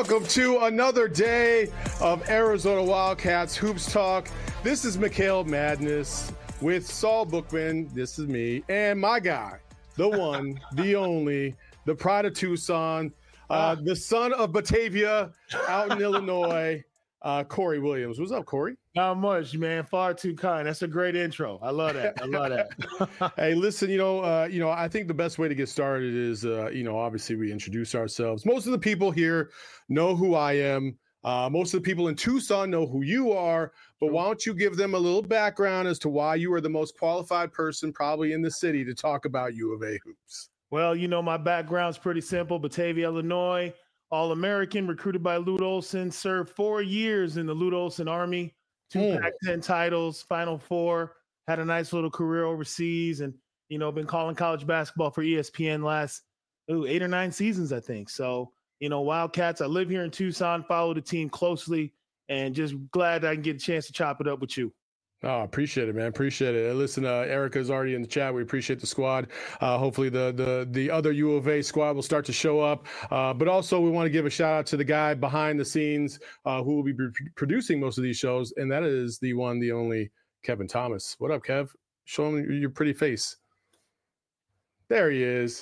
Welcome to another day of Arizona Wildcats Hoops Talk. This is Mikhail Madness with Saul Bookman. This is me and my guy, the one, the only, the pride of Tucson, the son of Batavia out in Illinois, Corey Williams. What's up, Corey? Not much, man. Far too kind. That's a great intro. I love that. I love that. Hey, listen, I think the best way to get started is, obviously we introduce ourselves. Most of the people here know who I am. Most of the people in Tucson know who you are, but why don't you give them a little background as to why you are the most qualified person probably in the city to talk about U of A hoops? Well, my background's pretty simple. Batavia, Illinois, All-American, recruited by Lute Olson, served 4 years in the Lute Olson Army. 2 Pac-10 titles, Final Four, had a nice little career overseas, and, been calling college basketball for ESPN last 8 or 9 seasons, I think. So, Wildcats, I live here in Tucson, follow the team closely, and just glad I can get a chance to chop it up with you. Oh, appreciate it, man. Appreciate it. Listen, Erica's already in the chat. We appreciate the squad. Hopefully the other U of A squad will start to show up. But also we want to give a shout out to the guy behind the scenes who will be producing most of these shows. And that is the one, the only Kevin Thomas. What up, Kev? Show him your pretty face. There he is.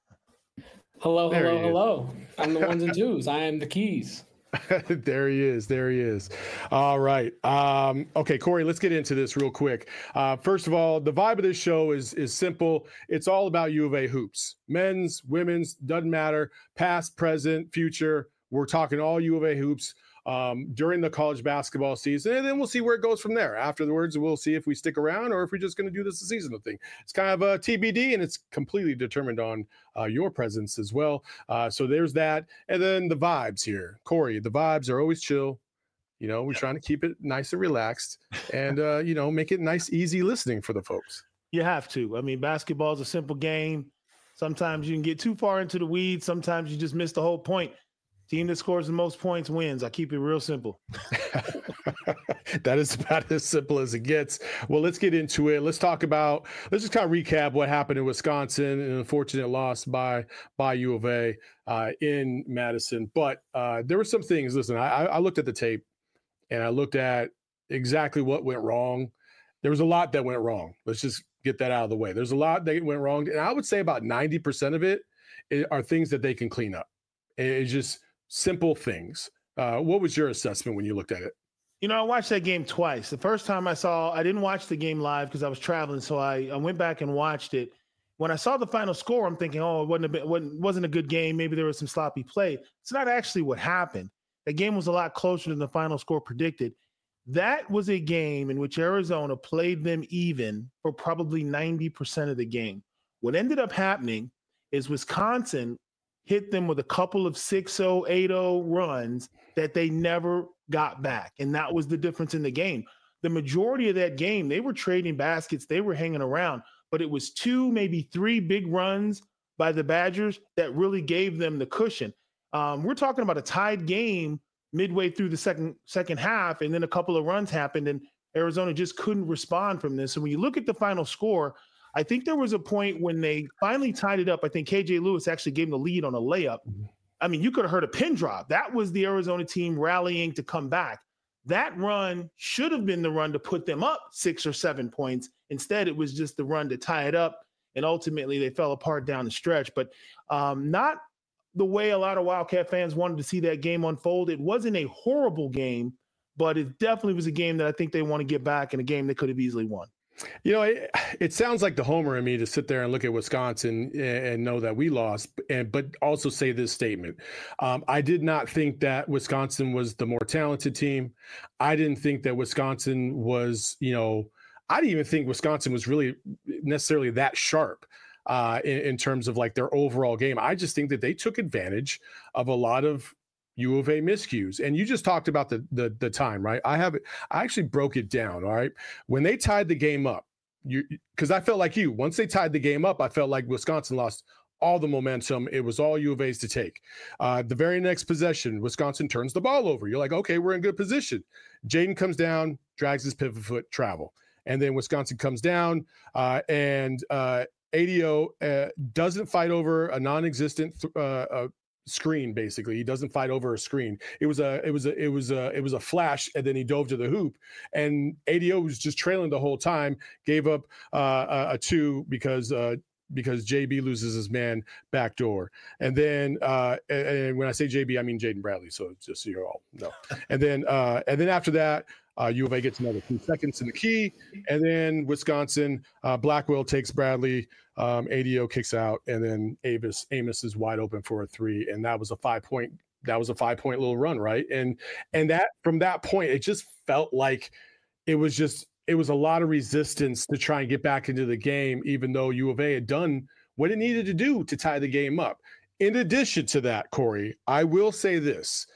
Hello. I'm the ones and twos. I am the keys. There he is. All right. Okay, Corey, let's get into this real quick. First of all, the vibe of this show is simple. It's all about U of A hoops. Men's, women's, doesn't matter. Past, present, future. We're talking all U of A hoops during the college basketball season, and then we'll see where it goes from there. Afterwards, we'll see if we stick around or if we're just going to do this a seasonal thing. It's kind of a TBD, and it's completely determined on your presence as well. So there's that. And then the vibes here. Corey, the vibes are always chill. We're trying to keep it nice and relaxed and, make it nice, easy listening for the folks. You have to. I mean, basketball is a simple game. Sometimes you can get too far into the weeds. Sometimes you just miss the whole point. Team that scores the most points wins. I keep it real simple. That is about as simple as it gets. Well, let's get into it. Let's just kind of recap what happened in Wisconsin, an unfortunate loss by U of A in Madison. But there were some things. Listen, I looked at the tape and I looked at exactly what went wrong. There was a lot that went wrong. Let's just get that out of the way. There's a lot that went wrong. And I would say about 90% of it are things that they can clean up. It's just simple things. What was your assessment when you looked at it? I watched that game twice. The first time I didn't watch the game live because I was traveling, so I went back and watched it. When I saw the final score, I'm thinking, it wasn't a good game. Maybe there was some sloppy play. It's not actually what happened. The game was a lot closer than the final score predicted. That was a game in which Arizona played them even for probably 90% of the game. What ended up happening is Wisconsin hit them with a couple of 6-0, 8-0 runs that they never got back. And that was the difference in the game. The majority of that game, they were trading baskets, they were hanging around, but it was 2, maybe 3 big runs by the Badgers that really gave them the cushion. We're talking about a tied game midway through the second half, and then a couple of runs happened, and Arizona just couldn't respond from this. And when you look at the final score, I think there was a point when they finally tied it up. I think KJ Lewis actually gave them the lead on a layup. I mean, you could have heard a pin drop. That was the Arizona team rallying to come back. That run should have been the run to put them up 6 or 7 points. Instead, it was just the run to tie it up, and ultimately they fell apart down the stretch. But not the way a lot of Wildcat fans wanted to see that game unfold. It wasn't a horrible game, but it definitely was a game that I think they want to get back, and a game they could have easily won. It sounds like the homer in me to sit there and look at Wisconsin and know that we lost, but also say this statement. I did not think that Wisconsin was the more talented team. I didn't think that Wisconsin was, I didn't even think Wisconsin was really necessarily that sharp in terms of like their overall game. I just think that they took advantage of a lot of U of A miscues. And you just talked about the time, right? I actually broke it down. All right. When they tied the game up, because I felt like once they tied the game up, I felt like Wisconsin lost all the momentum. It was all U of A's to take. The very next possession, Wisconsin turns the ball over. You're like, okay, we're in good position. Jaden comes down, drags his pivot foot travel. And then Wisconsin comes down and ADO doesn't fight over a non-existent screen. Basically, he doesn't fight over a screen. It was a flash, and then he dove to the hoop, and ADO was just trailing the whole time. Gave up a 2 because JB loses his man backdoor. And then and when I say JB, I mean Jaden Bradley. So just so you all know. And then after that, U of A gets another 2 seconds in the key. And then Wisconsin, Blackwell takes Bradley. ADO kicks out. And then Amos is wide open for a 3. And that was a 5-point. That was a 5-point little run, right? And that from that point, it just felt like it was a lot of resistance to try and get back into the game, even though U of A had done what it needed to do to tie the game up. In addition to that, Corey, I will say this.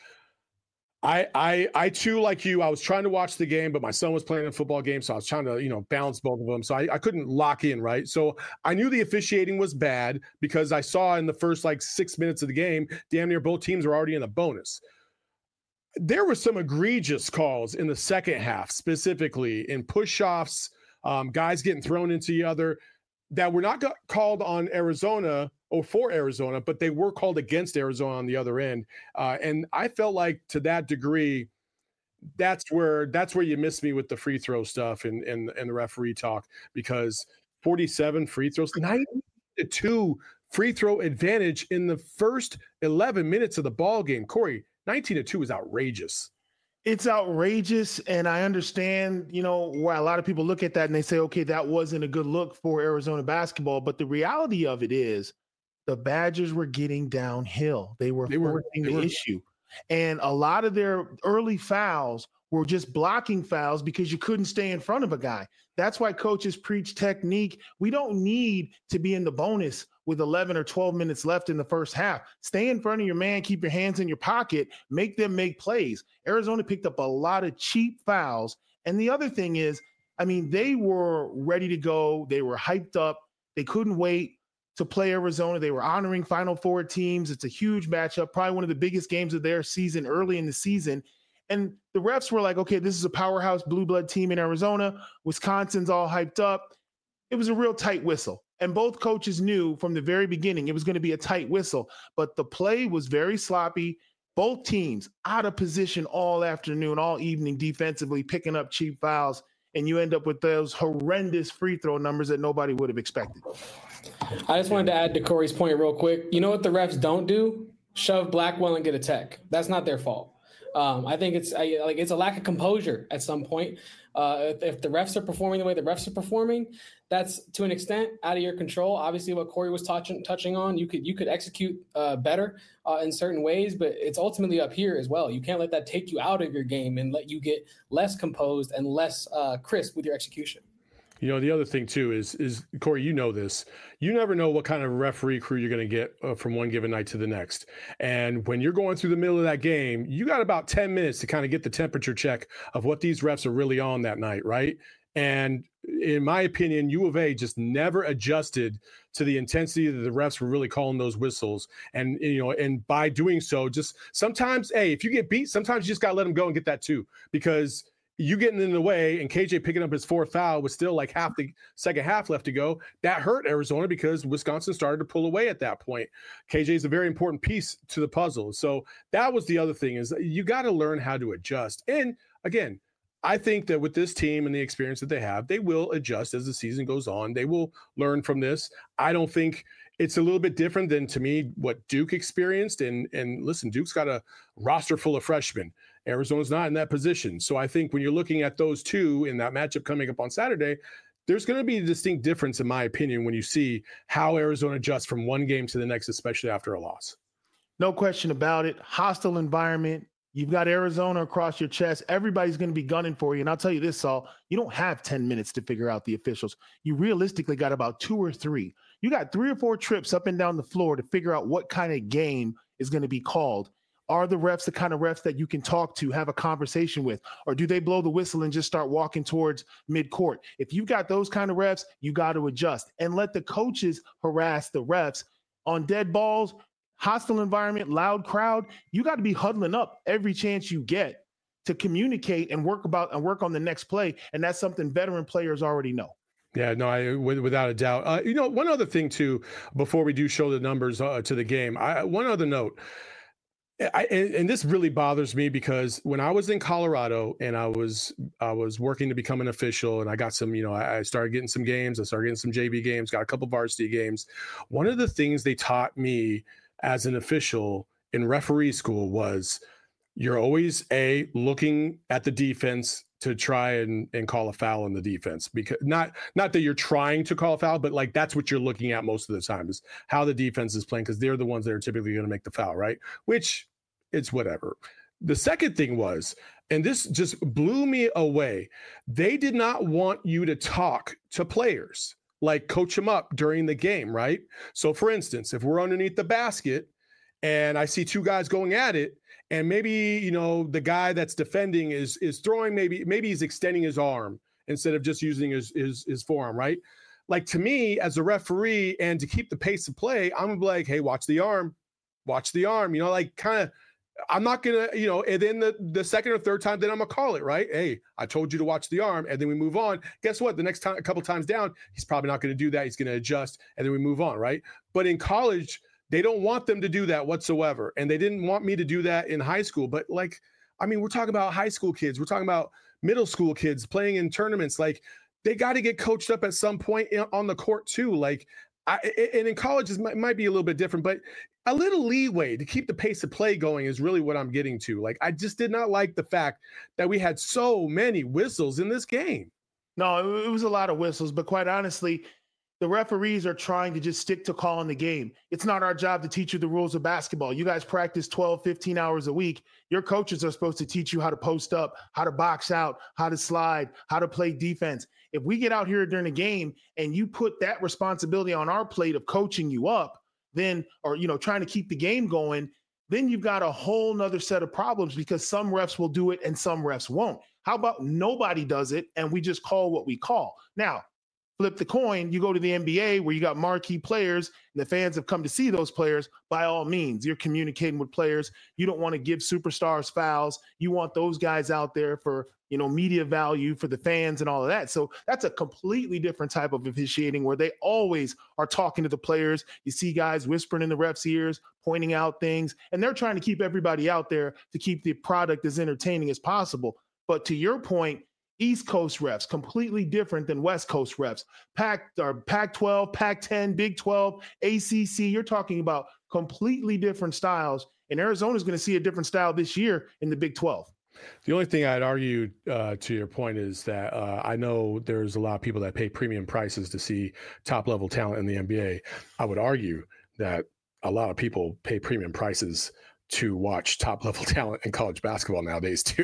I too, like you, I was trying to watch the game, but my son was playing a football game, so I was trying to, balance both of them. So I couldn't lock in, right? So I knew the officiating was bad because I saw in the first 6 minutes of the game, damn near both teams were already in the bonus. There were some egregious calls in the second half, specifically in push-offs, guys getting thrown into the other that were not called on Arizona or for Arizona, but they were called against Arizona on the other end. And I felt like to that degree, that's where you missed me with the free throw stuff and the referee talk, because 47 free throws, 92 free throw advantage in the first 11 minutes of the ball game. Corey, 19-2 is outrageous. It's outrageous, and I understand, why a lot of people look at that and they say, okay, that wasn't a good look for Arizona basketball. But the reality of it is the Badgers were getting downhill. They were forcing the issue. And a lot of their early fouls were just blocking fouls because you couldn't stay in front of a guy. That's why coaches preach technique. We don't need to be in the bonus with 11 or 12 minutes left in the first half. Stay in front of your man, keep your hands in your pocket, make them make plays. Arizona picked up a lot of cheap fouls. And the other thing is, they were ready to go. They were hyped up. They couldn't wait to play Arizona. They were honoring Final Four teams. It's a huge matchup, probably one of the biggest games of their season early in the season. And the refs were like, okay, this is a powerhouse blue blood team in Arizona. Wisconsin's all hyped up. It was a real tight whistle. And both coaches knew from the very beginning it was going to be a tight whistle. But the play was very sloppy. Both teams out of position all afternoon, all evening defensively, picking up cheap fouls. And you end up with those horrendous free throw numbers that nobody would have expected. I just wanted to add to Corey's point real quick. You know what the refs don't do? Shove Blackwell and get a tech. That's not their fault. I think it's a lack of composure at some point. If the refs are performing the way the refs are performing, that's to an extent out of your control. Obviously, what Corey was touching on, you could execute better in certain ways, but it's ultimately up here as well. You can't let that take you out of your game and let you get less composed and less crisp with your execution. The other thing too is Corey, this. You never know what kind of referee crew you're going to get from one given night to the next. And when you're going through the middle of that game, you got about 10 minutes to kind of get the temperature check of what these refs are really on that night, right? And in my opinion, U of A just never adjusted to the intensity that the refs were really calling those whistles. And, and by doing so, just sometimes, hey, if you get beat, sometimes you just got to let them go and get that too, because you getting in the way and KJ picking up his 4th foul with still like half the second half left to go. That hurt Arizona because Wisconsin started to pull away at that point. KJ is a very important piece to the puzzle. So that was the other thing, is you got to learn how to adjust. And again, I think that with this team and the experience that they have, they will adjust as the season goes on. They will learn from this. I don't think it's a little bit different than, to me, what Duke experienced. And listen, Duke's got a roster full of freshmen. Arizona's not in that position. So I think when you're looking at those two in that matchup coming up on Saturday, there's going to be a distinct difference, in my opinion, when you see how Arizona adjusts from one game to the next, especially after a loss. No question about it. Hostile environment. You've got Arizona across your chest. Everybody's going to be gunning for you. And I'll tell you this, Saul, you don't have 10 minutes to figure out the officials. You realistically got about 2 or 3. You got 3 or 4 trips up and down the floor to figure out what kind of game is going to be called. Are the refs the kind of refs that you can talk to, have a conversation with, or do they blow the whistle and just start walking towards midcourt? If you've got those kind of refs, you got to adjust and let the coaches harass the refs on dead balls, hostile environment, loud crowd. You got to be huddling up every chance you get to communicate and work on the next play. And that's something veteran players already know. Yeah, no, without a doubt. One other thing too, before we do show the numbers to the game, one other note. And this really bothers me because when I was in Colorado and I was working to become an official, and I got some, I started getting some games. I started getting some JV games, got a couple varsity games. One of the things they taught me as an official in referee school was you're always looking at the defense to try and call a foul in the defense, because not that you're trying to call a foul, but like that's what you're looking at most of the time is how the defense is playing, because they're the ones that are typically going to make the foul, right? Which it's whatever. The second thing was, and this just blew me away, they did not want you to talk to players, like coach them up during the game, right? So for instance, if we're underneath the basket and I see two guys going at it, and maybe, the guy that's defending is throwing, maybe he's extending his arm instead of just using his forearm, right? Like, to me, as a referee, and to keep the pace of play, I'm gonna be like, hey, watch the arm, like kind of, I'm not gonna, and then the second or third time, then I'm gonna call it, right? Hey, I told you to watch the arm, and then we move on. Guess what? The next time, a couple times down, he's probably not gonna do that. He's gonna adjust, and then we move on, right? But in college, they don't want them to do that whatsoever. And they didn't want me to do that in high school. But we're talking about high school kids. We're talking about middle school kids playing in tournaments. Like, they got to get coached up at some point on the court too. Like, and in college, it might be a little bit different, but a little leeway to keep the pace of play going is really what I'm getting to. Like, I just did not like the fact that we had so many whistles in this game. No, it was a lot of whistles, but quite honestly, the referees are trying to just stick to calling the game. It's not our job to teach you the rules of basketball. You guys practice 12, 15 hours a week. Your coaches are supposed to teach you how to post up, how to box out, how to slide, how to play defense. If we get out here during a game and you put that responsibility on our plate of coaching you up, then, or, trying to keep the game going, then you've got a whole nother set of problems, because some refs will do it and some refs won't. How about nobody does it and we just call what we call? Now, flip the coin, you go to the NBA where you got marquee players and the fans have come to see those players. By all means, you're communicating with players. You don't want to give superstars fouls. You want those guys out there for, media value for the fans and all of that. So that's a completely different type of officiating, where they always are talking to the players. You see guys whispering in the refs' ears, pointing out things, and they're trying to keep everybody out there to keep the product as entertaining as possible. But to your point, East Coast refs, completely different than West Coast refs. Pac-12, Pac-10, Big 12, ACC, you're talking about completely different styles. And Arizona's going to see a different style this year in the Big 12. The only thing I'd argue to your point is that I know there's a lot of people that pay premium prices to see top-level talent in the NBA. I would argue that a lot of people pay premium prices to watch top-level talent in college basketball nowadays too,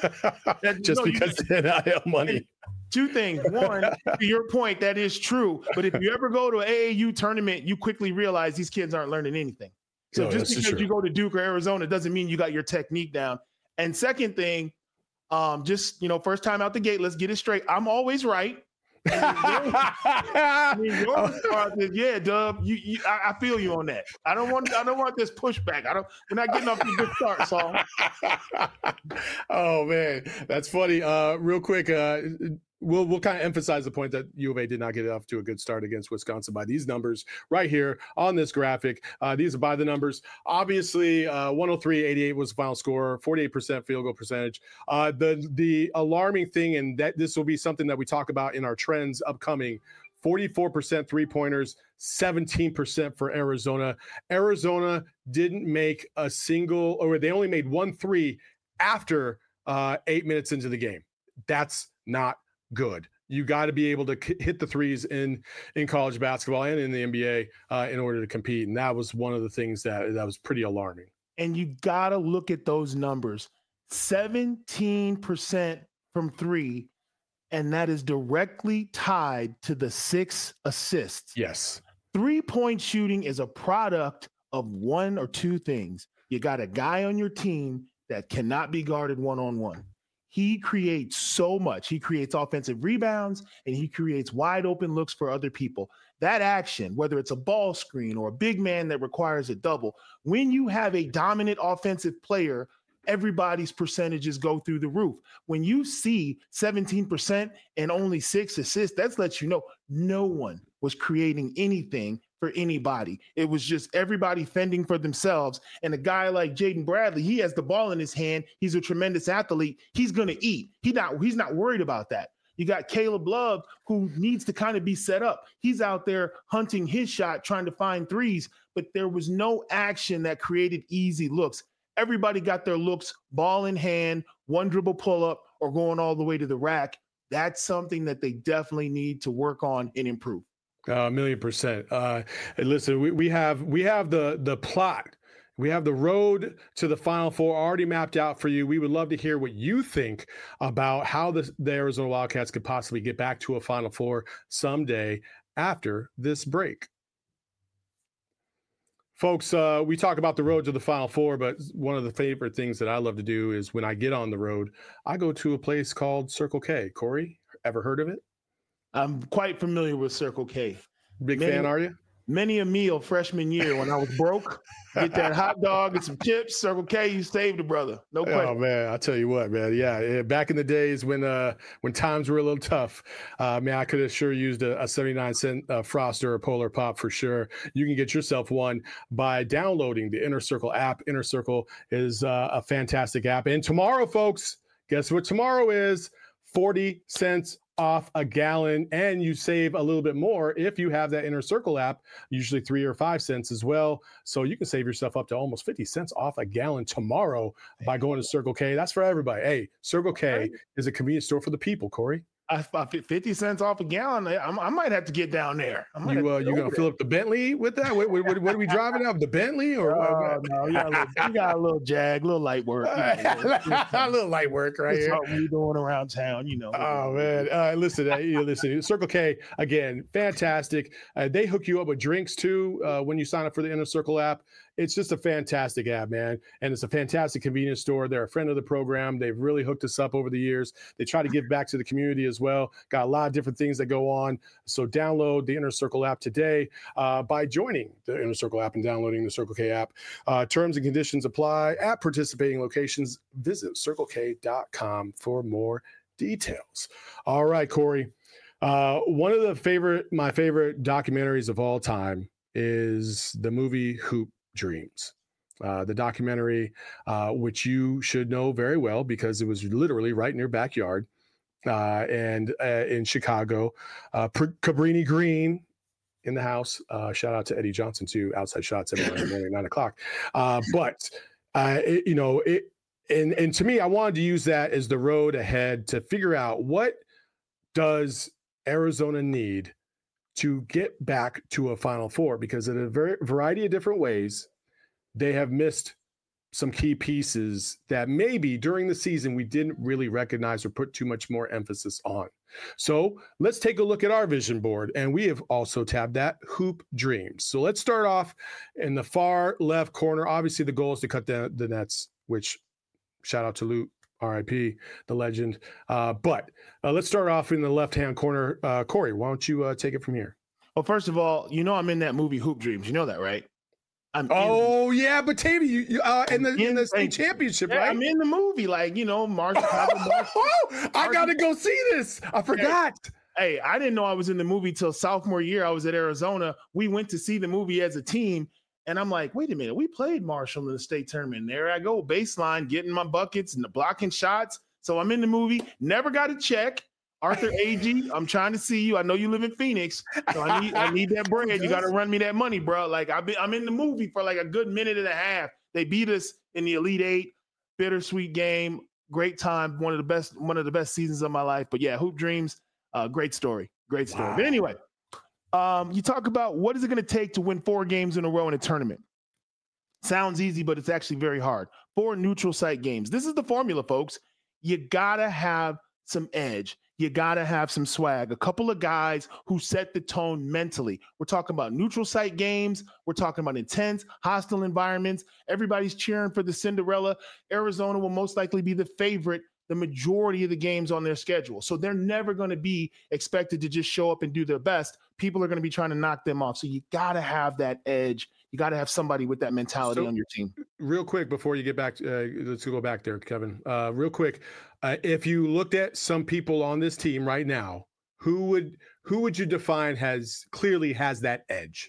because of NIL money. Two things. One, to your point, that is true. But if you ever go to an AAU tournament, you quickly realize these kids aren't learning anything. So just because you go to Duke or Arizona doesn't mean you got your technique down. And second thing, first time out the gate, let's get it straight. I'm always right. Yeah, Dub. I feel you on that. I don't want this pushback. We're not getting off to a good start, Saul. Oh man, that's funny. Real quick, we'll kind of emphasize the point that U of A did not get off to a good start against Wisconsin by these numbers right here on this graphic. These are by the numbers. Obviously, 103-88 was the final score, 48% field goal percentage. The alarming thing, and that this will be something that we talk about in our trends upcoming, 44% three-pointers, 17% for Arizona. Arizona didn't make a single, or they only made 1 3 after 8 minutes into the game. That's not good. You got to be able to hit the threes in college basketball and in the NBA in order to compete. And that was one of the things that was pretty alarming. And you got to look at those numbers. 17% from three, and that is directly tied to the 6 assists. Yes. 3-point shooting is a product of one or two things. You got a guy on your team that cannot be guarded one-on-one. He creates so much. He creates offensive rebounds, and he creates wide open looks for other people. That action, whether it's a ball screen or a big man that requires a double, when you have a dominant offensive player everybody's percentages go through the roof. When you see 17% and only 6 assists, that lets you know no one was creating anything for anybody. It was just everybody fending for themselves. And a guy like Jaden Bradley, he has the ball in his hand. He's a tremendous athlete. He's going to eat. He's not worried about that. You got Caleb Love, who needs to kind of be set up. He's out there hunting his shot, trying to find threes, but there was no action that created easy looks. Everybody got their looks, ball in hand, one dribble pull up, or going all the way to the rack. That's something that they definitely need to work on and improve. 1,000,000%. Listen, we have the plot. We have the road to the Final Four already mapped out for you. We would love to hear what you think about how the Arizona Wildcats could possibly get back to a Final Four someday after this break. Folks, we talk about the road to the Final Four, but one of the favorite things that I love to do is when I get on the road, I go to a place called Circle K. Corey, ever heard of it? I'm quite familiar with Circle K. Big fan, are you? Many a meal freshman year when I was broke, get that hot dog and some chips. Circle K, you saved a brother. No question. Oh man, I tell you what, man. Yeah, back in the days when times were a little tough, man, I could have sure used a 79-cent Frost or a Polar Pop for sure. You can get yourself one by downloading the Inner Circle app. Inner Circle is a fantastic app. And tomorrow, folks, guess what tomorrow is? 40 cents off a gallon, and you save a little bit more if you have that Inner Circle app, usually 3 or 5 cents as well. So you can save yourself up to almost 50 cents off a gallon tomorrow by going to Circle K. That's for everybody. Hey, Circle K is a convenience store for the people, Corey. 50 cents off a gallon. I might have to get down there. You gonna fill up the Bentley with that? What are we driving up? The Bentley or no? You got a little Jag, a little light work. A little light work, right here. What we doing around town, you know. Oh man, listen. Circle K again, fantastic. They hook you up with drinks too when you sign up for the Inner Circle app. It's just a fantastic app, man. And it's a fantastic convenience store. They're a friend of the program. They've really hooked us up over the years. They try to give back to the community as well. Got a lot of different things that go on. So download the Inner Circle app today by joining the Inner Circle app and downloading the Circle K app. Terms and conditions apply at participating locations. Visit CircleK.com for more details. All right, Corey. One of my favorite documentaries of all time is the movie Hoop Dreams, the documentary, which you should know very well because it was literally right in your backyard and in Chicago. Cabrini Green in the house. Shout out to Eddie Johnson too. Outside shots every morning, 9 o'clock. But and to me, I wanted to use that as the road ahead to figure out what does Arizona need to get back to a Final Four, because in a variety of different ways, they have missed some key pieces that maybe during the season we didn't really recognize or put too much more emphasis on. So let's take a look at our vision board, and we have also tabbed that Hoop Dreams. So let's start off in the far left corner. Obviously, the goal is to cut the nets, which shout out to Lute. RIP, the legend. But let's start off in the left-hand corner. Corey, why don't you take it from here? Well, first of all, I'm in that movie Hoop Dreams. You know that, right? Yeah, but Tavy, you in the state championship, right? I'm in the movie, Marshall. I gotta go see this. I forgot. Hey, I didn't know I was in the movie till sophomore year. I was at Arizona. We went to see the movie as a team. And I'm like, wait a minute, we played Marshall in the state tournament. There I go, baseline, getting my buckets and the blocking shots. So I'm in the movie, never got a check. Arthur Agee, I'm trying to see you. I know you live in Phoenix, so I need that bread. You got to run me that money, bro. Like I'm in the movie for like a good minute and a half. They beat us in the Elite Eight, bittersweet game, great time, one of the best seasons of my life. But yeah, Hoop Dreams, great story. Wow. But anyway. You talk about what is it going to take to win 4 games in a row in a tournament. Sounds easy, but it's actually very hard. 4 neutral site games. This is the formula, folks. You got to have some edge. You got to have some swag. A couple of guys who set the tone mentally. We're talking about neutral site games. We're talking about intense, hostile environments. Everybody's cheering for the Cinderella. Arizona will most likely be the favorite the majority of the games on their schedule. So they're never going to be expected to just show up and do their best. People are going to be trying to knock them off. So you got to have that edge. You got to have somebody with that mentality on your team. Real quick, before you get back, let's go back there, Kevin. Real quick, if you looked at some people on this team right now, who would you define clearly has that edge?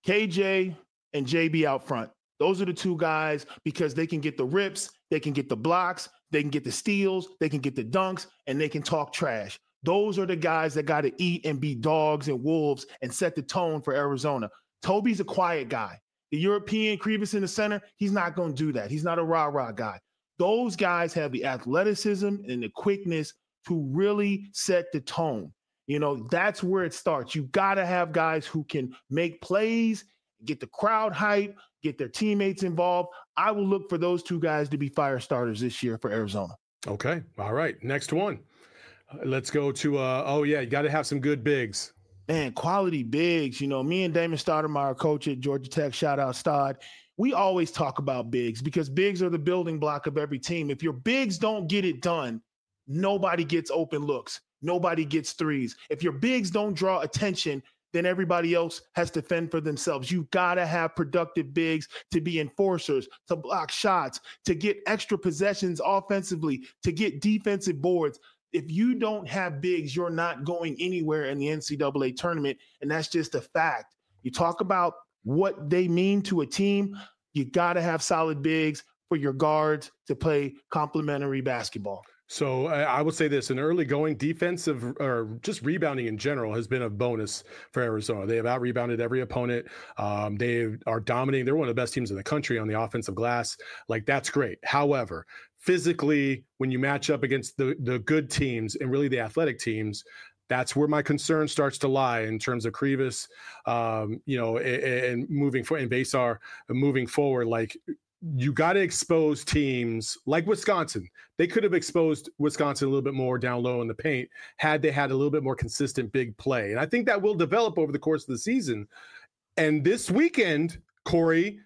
KJ and JB out front. Those are the two guys because they can get the rips, they can get the blocks, they can get the steals, they can get the dunks, and they can talk trash. Those are the guys that got to eat and be dogs and wolves and set the tone for Arizona. Toby's a quiet guy. The European Krivas in the center, he's not going to do that. He's not a rah-rah guy. Those guys have the athleticism and the quickness to really set the tone. You know, that's where it starts. You got to have guys who can make plays, get the crowd hype, get their teammates involved. I will look for those two guys to be fire starters this year for Arizona. Okay. All right. Next one. Let's go to, you got to have some good bigs. Man, quality bigs. You know, me and Damon Stoudemire, coach at Georgia Tech, shout out Stod, we always talk about bigs because bigs are the building block of every team. If your bigs don't get it done, nobody gets open looks. Nobody gets threes. If your bigs don't draw attention, then everybody else has to fend for themselves. You got to have productive bigs to be enforcers, to block shots, to get extra possessions offensively, to get defensive boards. If you don't have bigs, you're not going anywhere in the NCAA tournament, and that's just a fact. You talk about what they mean to a team, you got to have solid bigs for your guards to play complementary basketball. So I would say this, an early going defensive or just rebounding in general has been a bonus for Arizona. They have out-rebounded every opponent. They are dominating. They're one of the best teams in the country on the offensive glass. Like, that's great. However, physically, when you match up against the good teams and really the athletic teams, that's where my concern starts to lie in terms of Krivas, and moving forward, and Basar moving forward. Like, you got to expose teams like Wisconsin. They could have exposed Wisconsin a little bit more down low in the paint had they had a little bit more consistent big play. And I think that will develop over the course of the season. And this weekend, Corey,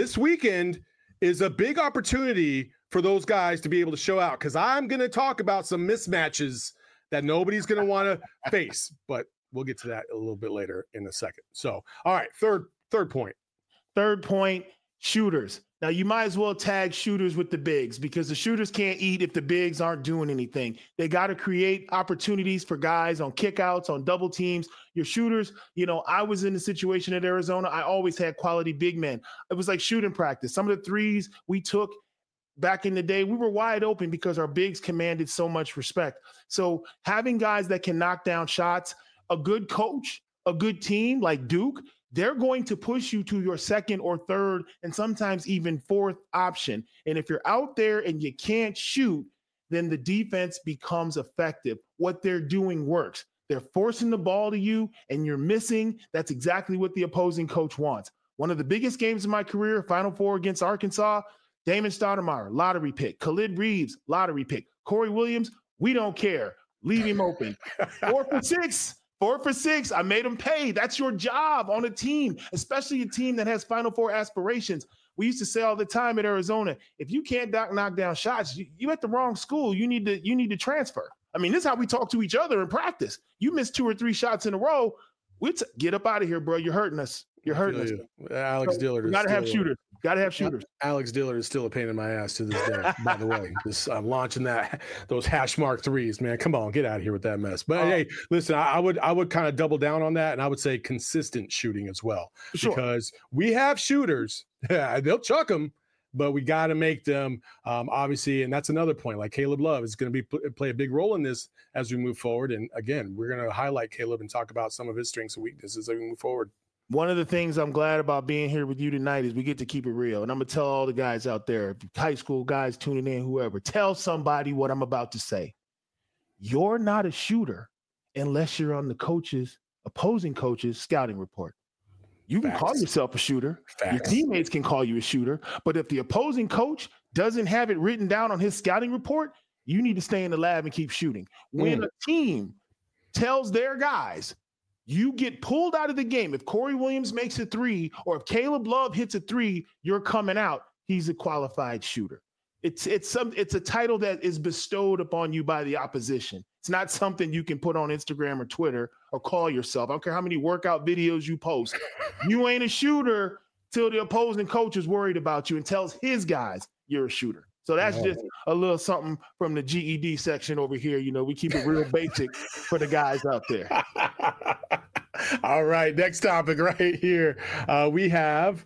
is a big opportunity for those guys to be able to show out, because I'm going to talk about some mismatches that nobody's going to want to face. But we'll get to that a little bit later in a second. So, all right, third point. Third point, shooters. Now, you might as well tag shooters with the bigs because the shooters can't eat if the bigs aren't doing anything. They got to create opportunities for guys on kickouts, on double teams. Your shooters, I was in a situation at Arizona. I always had quality big men. It was like shooting practice. Some of the threes we took back in the day, we were wide open because our bigs commanded so much respect. So having guys that can knock down shots, a good coach, a good team like Duke, they're going to push you to your second or third and sometimes even fourth option. And if you're out there and you can't shoot, then the defense becomes effective. What they're doing works. They're forcing the ball to you and you're missing. That's exactly what the opposing coach wants. One of the biggest games of my career, Final Four against Arkansas, Damon Stoudemire, lottery pick. Khalid Reeves, lottery pick. Corey Williams, we don't care. Leave him open. 4 for 6. 4 for 6. I made them pay. That's your job on a team, especially a team that has Final Four aspirations. We used to say all the time at Arizona, if you can't knock down shots, you at the wrong school. You need to transfer. I mean, this is how we talk to each other in practice. You miss 2 or 3 shots in a row, get up out of here, bro. You're hurting us. You're hurting us. Alex Dillard. You got to have shooters. Got to have shooters. Alex Dillard is still a pain in my ass to this day, by the way. I'm launching those hash mark threes, man. Come on, get out of here with that mess. But hey, listen, I would kind of double down on that, and I would say consistent shooting as well. Sure. Because we have shooters. They'll chuck them, but we got to make them, obviously, and that's another point. Like Caleb Love is going to play a big role in this as we move forward. And again, we're going to highlight Caleb and talk about some of his strengths and weaknesses as we move forward. One of the things I'm glad about being here with you tonight is we get to keep it real. And I'm going to tell all the guys out there, high school guys tuning in, whoever, tell somebody what I'm about to say. You're not a shooter unless you're on the opposing coach's scouting report. You can call yourself a shooter. Facts. Your teammates can call you a shooter. But if the opposing coach doesn't have it written down on his scouting report, you need to stay in the lab and keep shooting. When a team tells their guys, you get pulled out of the game. If Corey Williams makes a 3 or if Caleb Love hits a 3, you're coming out. He's a qualified shooter. It's a title that is bestowed upon you by the opposition. It's not something you can put on Instagram or Twitter or call yourself. I don't care how many workout videos you post. You ain't a shooter till the opposing coach is worried about you and tells his guys you're a shooter. So that's just a little something from the GED section over here. You know, we keep it real basic for the guys out there. All right, next topic right here. We have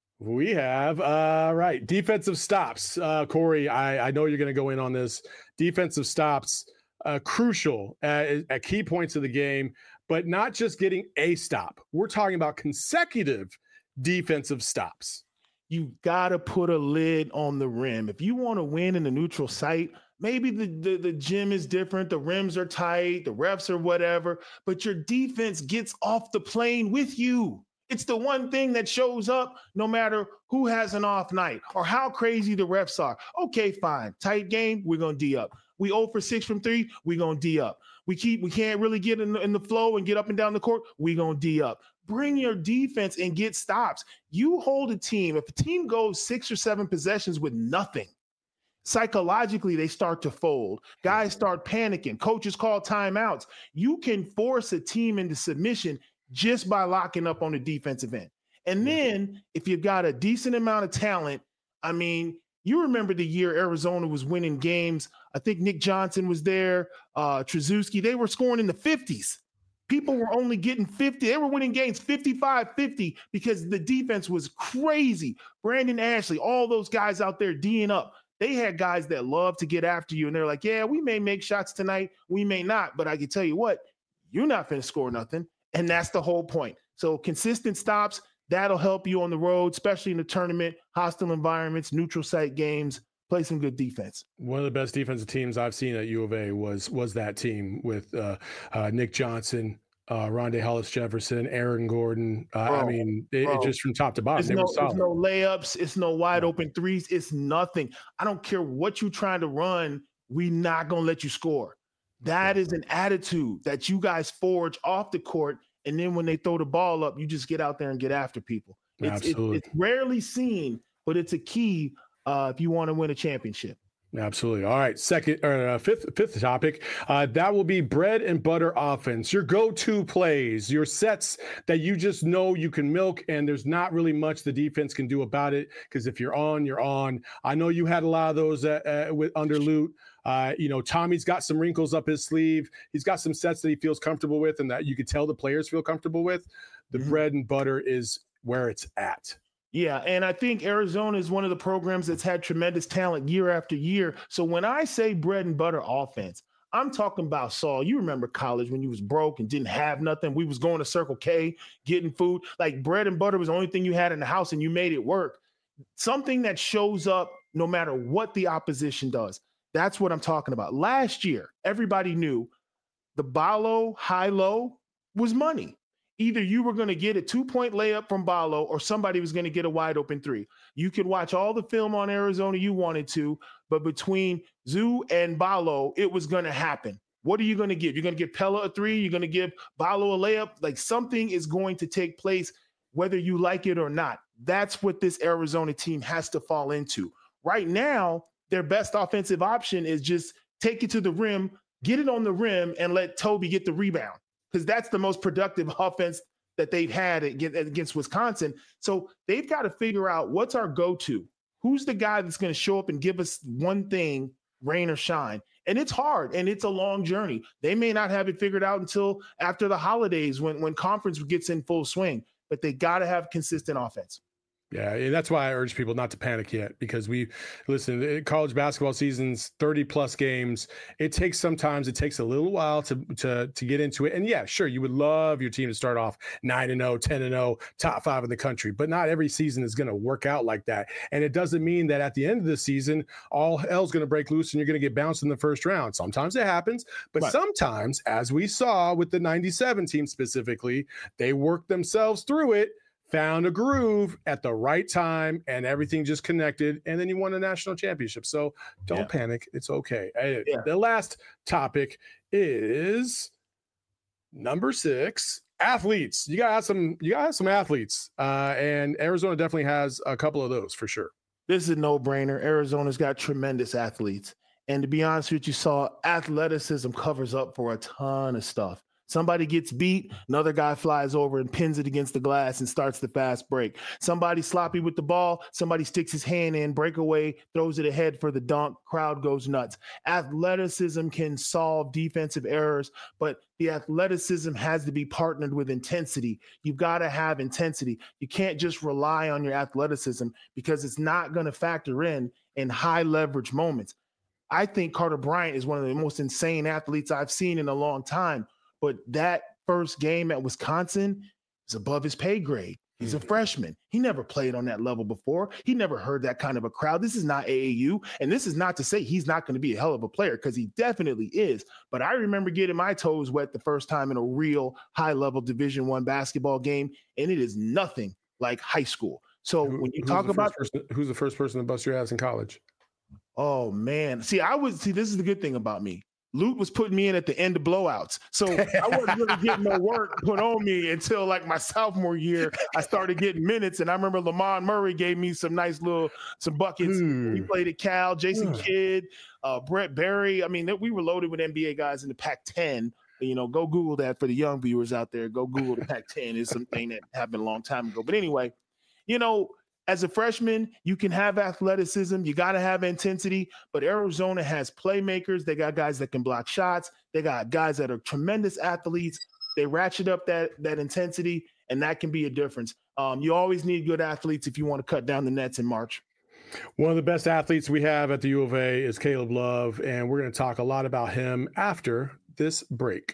defensive stops. Corey, I know you're going to go in on this. Defensive stops, crucial at key points of the game, but not just getting a stop. We're talking about consecutive defensive stops. You got to put a lid on the rim. If you want to win in the neutral site, maybe the gym is different. The rims are tight, the refs are whatever, but your defense gets off the plane with you. It's the one thing that shows up no matter who has an off night or how crazy the refs are. Okay, fine. Tight game, we're going to D up. We 0 for 6 from 3, we're going to D up. We can't really get in the flow and get up and down the court, we're going to D up. Bring your defense and get stops. You hold a team. If a team goes 6 or 7 possessions with nothing, psychologically, they start to fold. Guys start panicking. Coaches call timeouts. You can force a team into submission just by locking up on the defensive end. And then if you've got a decent amount of talent, I mean, you remember the year Arizona was winning games. I think Nick Johnson was there, Trzaskowski. They were scoring in the 50s. People were only getting 50. They were winning games 55-50 because the defense was crazy. Brandon Ashley, all those guys out there D'ing up. They had guys that love to get after you, and they're like, yeah, we may make shots tonight. We may not, but I can tell you what, you're not going to score nothing, and that's the whole point. So consistent stops, that'll help you on the road, especially in the tournament, hostile environments, neutral site games. Play some good defense. One of the best defensive teams I've seen at U of A was that team with Nick Johnson, Rondé Hollis-Jefferson, Aaron Gordon. I mean, it just from top to bottom. It's no layups. It's no wide open threes. It's nothing. I don't care what you're trying to run. We're not going to let you score. That is an attitude that you guys forge off the court. And then when they throw the ball up, you just get out there and get after people. It's rarely seen, but it's a key if you want to win a championship. Absolutely. All right. Fifth topic. That will be bread and butter offense. Your go-to plays, your sets that you just know you can milk, and there's not really much the defense can do about it. Because if you're on, you're on. I know you had a lot of those under Lute. Tommy's got some wrinkles up his sleeve. He's got some sets that he feels comfortable with, and that you could tell the players feel comfortable with. The bread and butter is where it's at. Yeah, and I think Arizona is one of the programs that's had tremendous talent year after year. So when I say bread and butter offense, I'm talking about, Saul, you remember college when you was broke and didn't have nothing. We was going to Circle K, getting food. Like bread and butter was the only thing you had in the house and you made it work. Something that shows up no matter what the opposition does. That's what I'm talking about. Last year, everybody knew the Ballo high-low was money. Either you were going to get a 2-point layup from Ballo or somebody was going to get a wide open 3. You could watch all the film on Arizona you wanted to, but between Zoo and Ballo, it was going to happen. What are you going to give? You're going to give Pella a 3? You're going to give Ballo a layup? Like something is going to take place whether you like it or not. That's what this Arizona team has to fall into. Right now, their best offensive option is just take it to the rim, get it on the rim, and let Toby get the rebound. Because that's the most productive offense that they've had against Wisconsin. So they've got to figure out what's our go-to. Who's the guy that's going to show up and give us one thing, rain or shine? And it's hard, and it's a long journey. They may not have it figured out until after the holidays when conference gets in full swing. But they got to have consistent offense. Yeah, and that's why I urge people not to panic yet, because college basketball season's 30-plus games. It takes a little while to get into it. And yeah, sure, you would love your team to start off 9-0, 10-0, top 5 in the country, but not every season is going to work out like that. And it doesn't mean that at the end of the season, all hell's going to break loose and you're going to get bounced in the first round. Sometimes it happens, but sometimes, as we saw with the 97 team specifically, they worked themselves through it, found a groove at the right time, and everything just connected, and then you won a national championship. So don't panic. It's okay. The last topic is number 6, athletes. You gotta have some athletes. And Arizona definitely has a couple of those for sure. This is a no-brainer. Arizona's got tremendous athletes. And to be honest with you, athleticism covers up for a ton of stuff. Somebody gets beat, another guy flies over and pins it against the glass and starts the fast break. Somebody sloppy with the ball, somebody sticks his hand in, breakaway, throws it ahead for the dunk, crowd goes nuts. Athleticism can solve defensive errors, but the athleticism has to be partnered with intensity. You've got to have intensity. You can't just rely on your athleticism because it's not going to factor in high leverage moments. I think Carter Bryant is one of the most insane athletes I've seen in a long time. But that first game at Wisconsin is above his pay grade. He's a freshman. He never played on that level before. He never heard that kind of a crowd. This is not AAU. And this is not to say he's not going to be a hell of a player, because he definitely is. But I remember getting my toes wet the first time in a real high-level Division I basketball game, and it is nothing like high school. So when you talk about who's the first person to bust your ass in college? Oh, man. This is the good thing about me. Lute was putting me in at the end of blowouts. So I wasn't really getting no work put on me until like my sophomore year. I started getting minutes, and I remember Lamont Murray gave me some buckets. We played at Cal, Jason Kidd, Brett Berry. I mean, we were loaded with NBA guys in the Pac-10. Go Google that for the young viewers out there. Go Google the Pac-10. It's something that happened a long time ago. But anyway, as a freshman, you can have athleticism. You got to have intensity. But Arizona has playmakers. They got guys that can block shots. They got guys that are tremendous athletes. They ratchet up that intensity, and that can be a difference. You always need good athletes if you want to cut down the nets in March. One of the best athletes we have at the U of A is Caleb Love, and we're going to talk a lot about him after this break.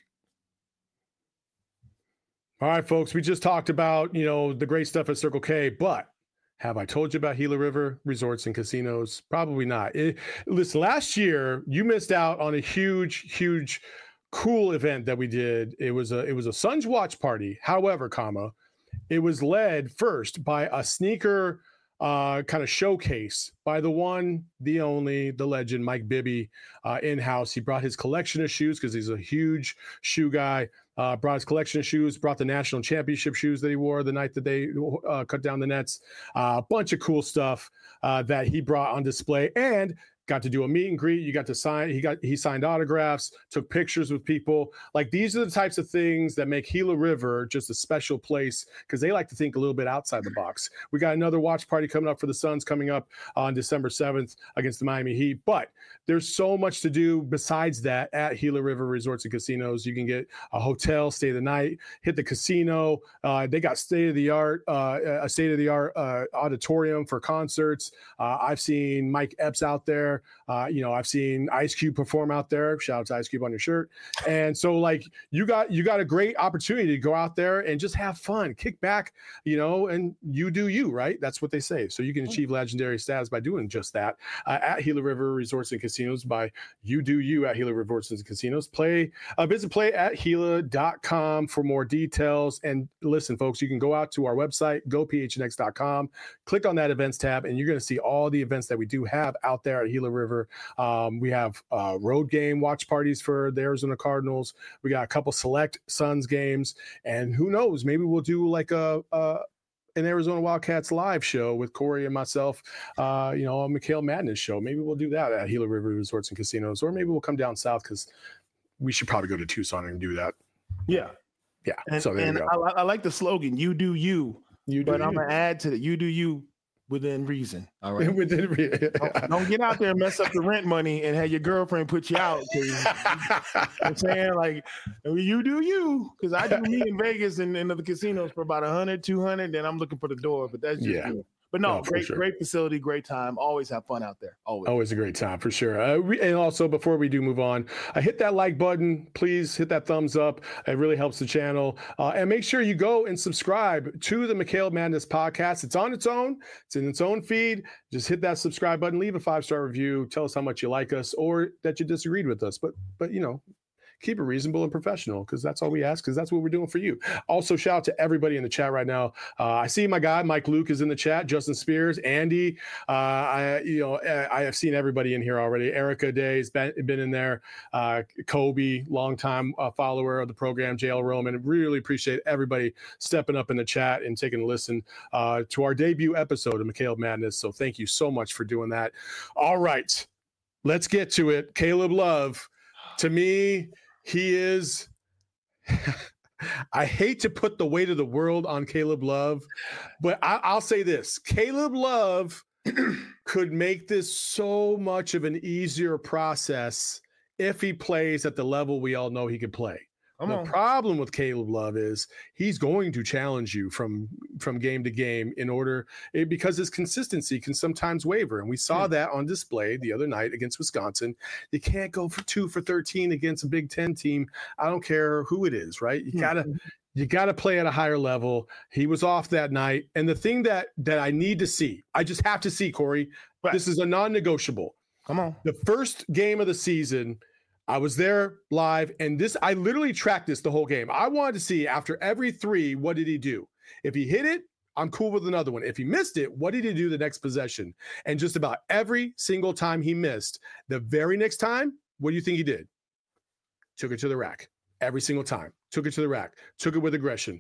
All right, folks, we just talked about, the great stuff at Circle K, but have I told you about Gila River Resorts and Casinos? Probably not. Listen, last year you missed out on a huge, cool event that we did. It was a Suns watch party. However, it was led first by a sneaker kind of showcase by the one, the only, the legend, Mike Bibby, in-house. He brought his collection of shoes because he's a huge shoe guy. Brought his collection of shoes, brought the national championship shoes that he wore the night that they cut down the nets. A bunch of cool stuff that he brought on display, and got to do a meet and greet. You got to sign. He signed autographs, took pictures with people. Like, these are the types of things that make Gila River just a special place, because they like to think a little bit outside the box. We got another watch party coming up for the Suns coming up on December 7th against the Miami Heat. But there's so much to do besides that at Gila River Resorts and Casinos. You can get a hotel, stay the night, hit the casino. They got a state-of-the-art auditorium for concerts. I've seen Mike Epps out there. I've seen Ice Cube perform out there. Shout out to Ice Cube on your shirt. And so, like, you got a great opportunity to go out there and just have fun, kick back, and you do you, right? That's what they say. So you can achieve legendary status by doing just that at Gila River Resorts and Casinos, by you do you at Gila River Resorts and Casinos. Visit playatgila.com for more details. And listen, folks, you can go out to our website, gophnx.com, click on that events tab, and you're going to see all the events that we do have out there at Gila River. We have road game watch parties for the Arizona Cardinals. We got a couple select Suns games, and who knows, maybe we'll do like an Arizona Wildcats live show with Corey and myself, a Mikhail Madness show. Maybe we'll do that at Gila River Resorts and Casinos, or maybe we'll come down south, because we should probably go to Tucson and do that. Yeah. And, so there you go. I like the slogan, you do you. But I'm going to add to it, you do you within reason. All right. Within reason. Don't get out there and mess up the rent money and have your girlfriend put you out. I'm saying, like, you do you, because I do me in Vegas and in the casinos for about 100, 200. Then I'm looking for the door, but that's just me. But no, great facility, great time. Always have fun out there. Always a great time, for sure. And also, before we do move on, hit that like button. Please hit that thumbs up. It really helps the channel. And make sure you go and subscribe to the Mikhail Madness podcast. It's on its own. It's in its own feed. Just hit that subscribe button. Leave a 5-star review. Tell us how much you like us or that you disagreed with us. But keep it reasonable and professional, because that's all we ask, because that's what we're doing for you. Also, shout out to everybody in the chat right now. I see my guy Mike Luke is in the chat, Justin Spears, Andy. I have seen everybody in here already. Erica Day's been in there. Kobe, longtime follower of the program. JL Roman. Really appreciate everybody stepping up in the chat and taking a listen to our debut episode of McKale Madness. So thank you so much for doing that. All right, let's get to it. Caleb Love, to me, he is. I hate to put the weight of the world on Caleb Love, but I'll say this. Caleb Love could make this so much of an easier process if he plays at the level we all know he could play. The problem with Caleb Love is he's going to challenge you from game to game because his consistency can sometimes waver. And we saw that on display the other night against Wisconsin. You can't go for 2 for 13 against a Big Ten team. I don't care who it is, right? You gotta play at a higher level. He was off that night. And the thing that I need to see, I just have to see, Corey, this is a non-negotiable. Come on. The first game of the season, I was there live, and I literally tracked this the whole game. I wanted to see after every 3, what did he do? If he hit it, I'm cool with another one. If he missed it, what did he do the next possession? And just about every single time he missed, the very next time, what do you think he did? Took it to the rack. Every single time. Took it to the rack. Took it with aggression.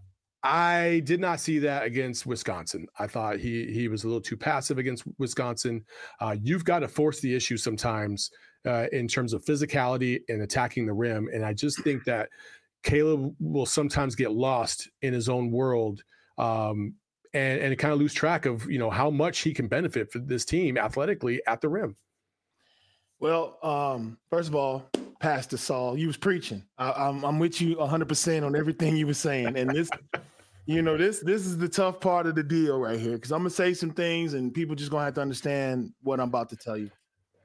I did not see that against Wisconsin. I thought he was a little too passive against Wisconsin. You've got to force the issue sometimes in terms of physicality and attacking the rim. And I just think that Caleb will sometimes get lost in his own world and kind of lose track of, how much he can benefit for this team athletically at the rim. Well, first of all, Pastor Saul, you was preaching. I'm with you 100% on everything you were saying. And this, this is the tough part of the deal right here, because I'm going to say some things and people just going to have to understand what I'm about to tell you.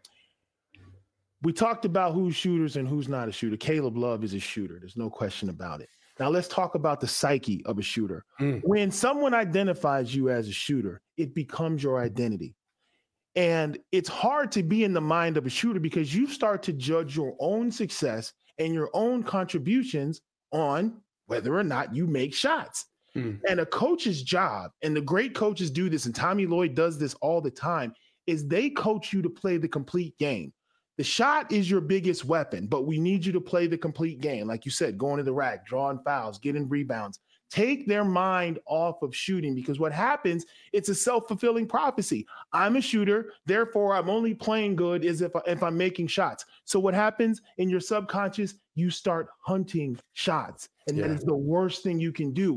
We talked about who's shooters and who's not a shooter. Caleb Love is a shooter. There's no question about it. Now let's talk about the psyche of a shooter. When someone identifies you as a shooter, it becomes your identity. And it's hard to be in the mind of a shooter because you start to judge your own success and your own contributions on whether or not you make shots. And a coach's job, and the great coaches do this, and Tommy Lloyd does this all the time, is they coach you to play the complete game. The shot is your biggest weapon, but we need you to play the complete game. Like you said, going to the rack, drawing fouls, getting rebounds. Take their mind off of shooting, because what happens, it's a self-fulfilling prophecy. I'm a shooter, therefore I'm only playing good as if I'm making shots. So what happens in your subconscious, you start hunting shots. And that is the worst thing you can do.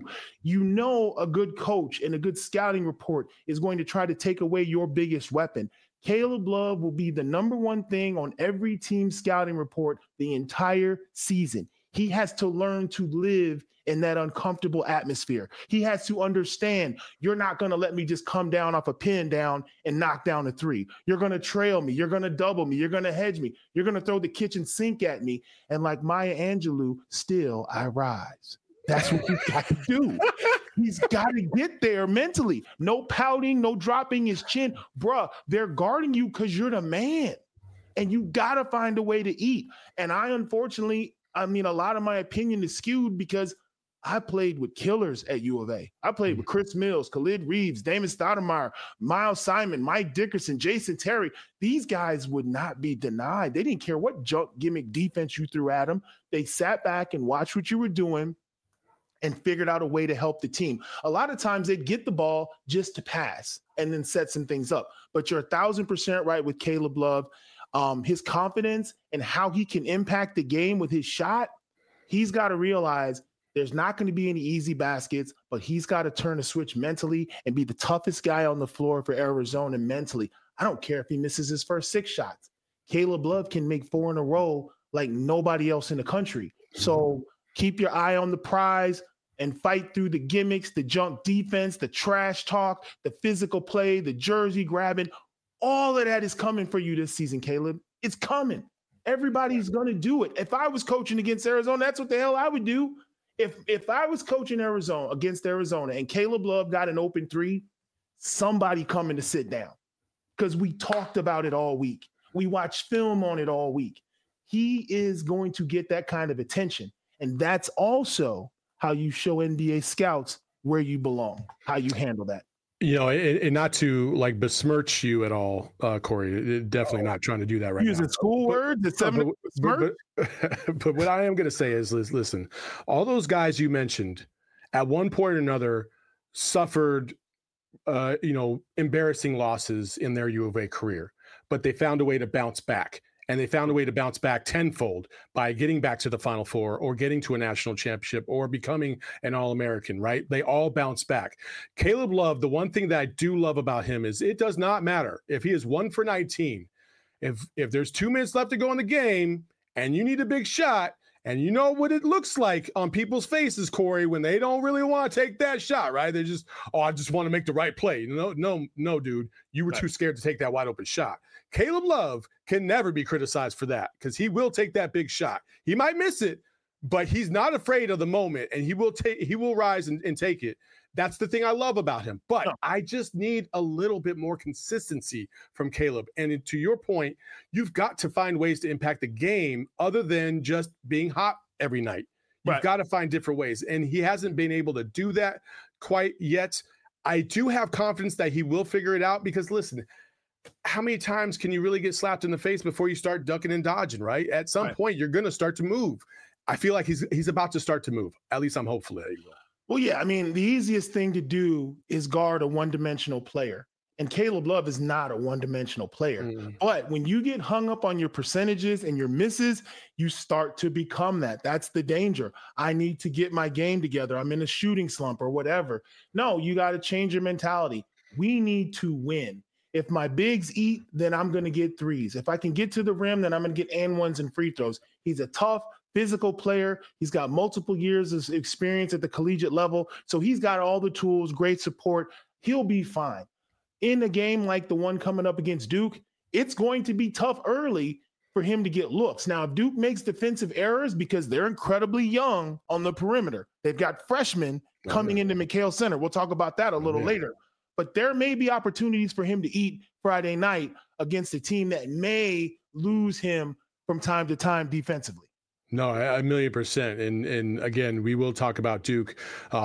A good coach and a good scouting report is going to try to take away your biggest weapon. Caleb Love will be the number one thing on every team scouting report the entire season. He has to learn to live in that uncomfortable atmosphere. He has to understand, you're not going to let me just come down off a pin down and knock down a 3. You're going to trail me. You're going to double me. You're going to hedge me. You're going to throw the kitchen sink at me. And like Maya Angelou, still I rise. That's what he's got to do. He's got to get there mentally. No pouting, no dropping his chin. Bruh, they're guarding you because you're the man. And you got to find a way to eat. And unfortunately, a lot of my opinion is skewed because I played with killers at U of A. I played with Chris Mills, Khalid Reeves, Damon Stoudemire, Miles Simon, Mike Dickerson, Jason Terry. These guys would not be denied. They didn't care what junk gimmick defense you threw at them. They sat back and watched what you were doing and figured out a way to help the team. A lot of times they'd get the ball just to pass and then set some things up. But you're 1,000% right with Caleb Love. His confidence and how he can impact the game with his shot, he's got to realize there's not going to be any easy baskets, but he's got to turn a switch mentally and be the toughest guy on the floor for Arizona mentally. I don't care if he misses his first 6 shots. Caleb Love can make 4 in a row like nobody else in the country. So keep your eye on the prize and fight through the gimmicks, the junk defense, the trash talk, the physical play, the jersey grabbing. All of that is coming for you this season, Caleb. It's coming. Everybody's going to do it. If I was coaching against Arizona, that's what the hell I would do. If I was coaching against Arizona and Caleb Love got an open 3, somebody coming to sit down, because we talked about it all week. We watched film on it all week. he is going to get that kind of attention. And that's also how you show NBA scouts where you belong, how you handle that. And not to like besmirch you at all, Corey, definitely not trying to do that right now. Using school words, but what I am going to say is, listen, all those guys you mentioned at one point or another suffered, embarrassing losses in their U of A career, but they found a way to bounce back. And they found a way to bounce back tenfold by getting back to the Final Four or getting to a national championship or becoming an All-American, right? They all bounce back. Caleb Love, the one thing that I do love about him is it does not matter if he is 1 for 19. If there's 2 minutes left to go in the game and you need a big shot, and you know what it looks like on people's faces, Corey, when they don't really want to take that shot, right? They just, I just want to make the right play. No, dude, you were too scared to take that wide open shot. Caleb Love can never be criticized for that because he will take that big shot. He might miss it, but he's not afraid of the moment, and he will rise and take it. That's the thing I love about him. But I just need a little bit more consistency from Caleb. And to your point, you've got to find ways to impact the game other than just being hot every night. You've got to find different ways. And he hasn't been able to do that quite yet. I do have confidence that he will figure it out because, listen, how many times can you really get slapped in the face before you start ducking and dodging, right? At some point, you're going to start to move. I feel like he's about to start to move. At least I'm hopeful that he will. Well, yeah, I mean, the easiest thing to do is guard a one-dimensional player. And Caleb Love is not a one-dimensional player. But when you get hung up on your percentages and your misses, you start to become that. That's the danger. I need to get my game together. I'm in a shooting slump or whatever. No, you got to change your mentality. We need to win. If my bigs eat, then I'm going to get threes. If I can get to the rim, then I'm going to get and ones and free throws. He's a tough, physical player. He's got multiple years of experience at the collegiate level. So he's got all the tools, great support. He'll be fine. In a game like the one coming up against Duke, it's going to be tough early for him to get looks. Now, if Duke makes defensive errors because they're incredibly young on the perimeter, they've got freshmen coming into McHale Center. We'll talk about that a little later. But there may be opportunities for him to eat Friday night against a team that may lose him from time to time defensively. No, 1,000,000%. And again, we will talk about Duke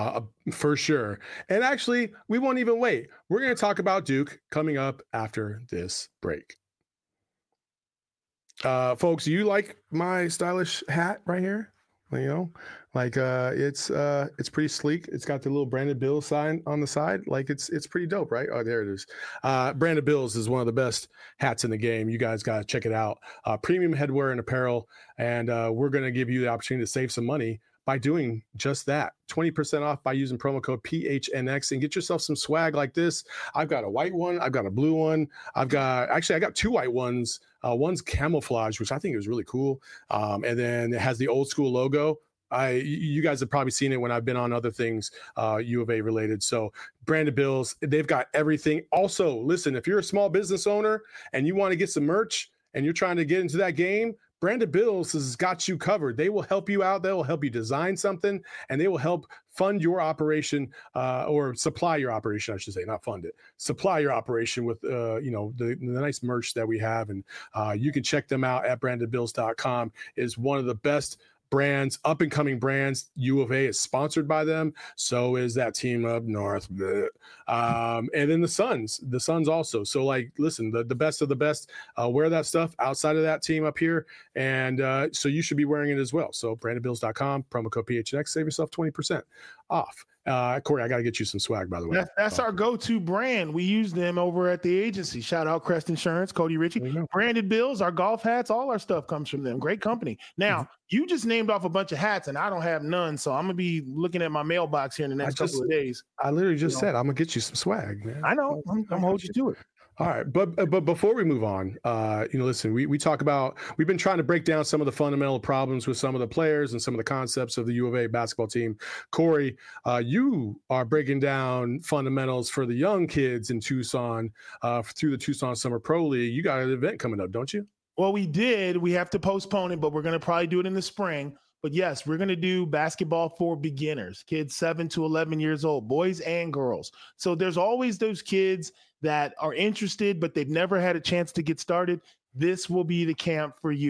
for sure. And actually, we won't even wait. We're going to talk about Duke coming up after this break. Folks, you like my stylish hat right here? It's pretty sleek. It's got the little Brandon Bills sign on the side. It's pretty dope, right? Oh, there it is. Brandon Bills is one of the best hats in the game. You guys got to check it out. Premium headwear and apparel. And we're going to give you the opportunity to save some money by doing just that. 20% off by using promo code PHNX and get yourself some swag like this. I've got a white one. I've got a blue one. I got 2 white ones. One's camouflage, which I think is really cool. And then it has the old school logo. You guys have probably seen it when I've been on other things, U of A related. So Brandon Bills, they've got everything. Also, listen, if you're a small business owner and you want to get some merch and you're trying to get into that game, Brandon Bills has got you covered. They will help you out. They will help you design something, and they will help fund your operation or supply your operation, I should say, not fund it. Supply your operation with, the nice merch that we have. And you can check them out at brandonbills.com. It's one of the best brands, up and coming brands. U of A is sponsored by them. So is that team up north. And then the Suns also. So listen, the best of the best wear that stuff outside of that team up here. And so you should be wearing it as well. So brandonbills.com, promo code PHNX, save yourself 20% off. Corey, I got to get you some swag, by the way. That's our go-to brand. We use them over at the agency. Shout out Crest Insurance, Cody Ritchie. Branded Bills, our golf hats, all our stuff comes from them. Great company. Now, you just named off a bunch of hats, and I don't have none, so I'm going to be looking at my mailbox here in the next couple of days. I literally just said I'm going to get you some swag, man. I know. I'm going to hold you to it. All right. But before we move on, listen, we talk about, we've been trying to break down some of the fundamental problems with some of the players and some of the concepts of the U of A basketball team. Corey, you are breaking down fundamentals for the young kids in Tucson through the Tucson Summer Pro League. You got an event coming up, don't you? Well, we did. We have to postpone it, but we're going to probably do it in the spring. But yes, we're going to do basketball for beginners, kids 7 to 11 years old, boys and girls. So there's always those kids that are interested, but they've never had a chance to get started. This will be the camp for you.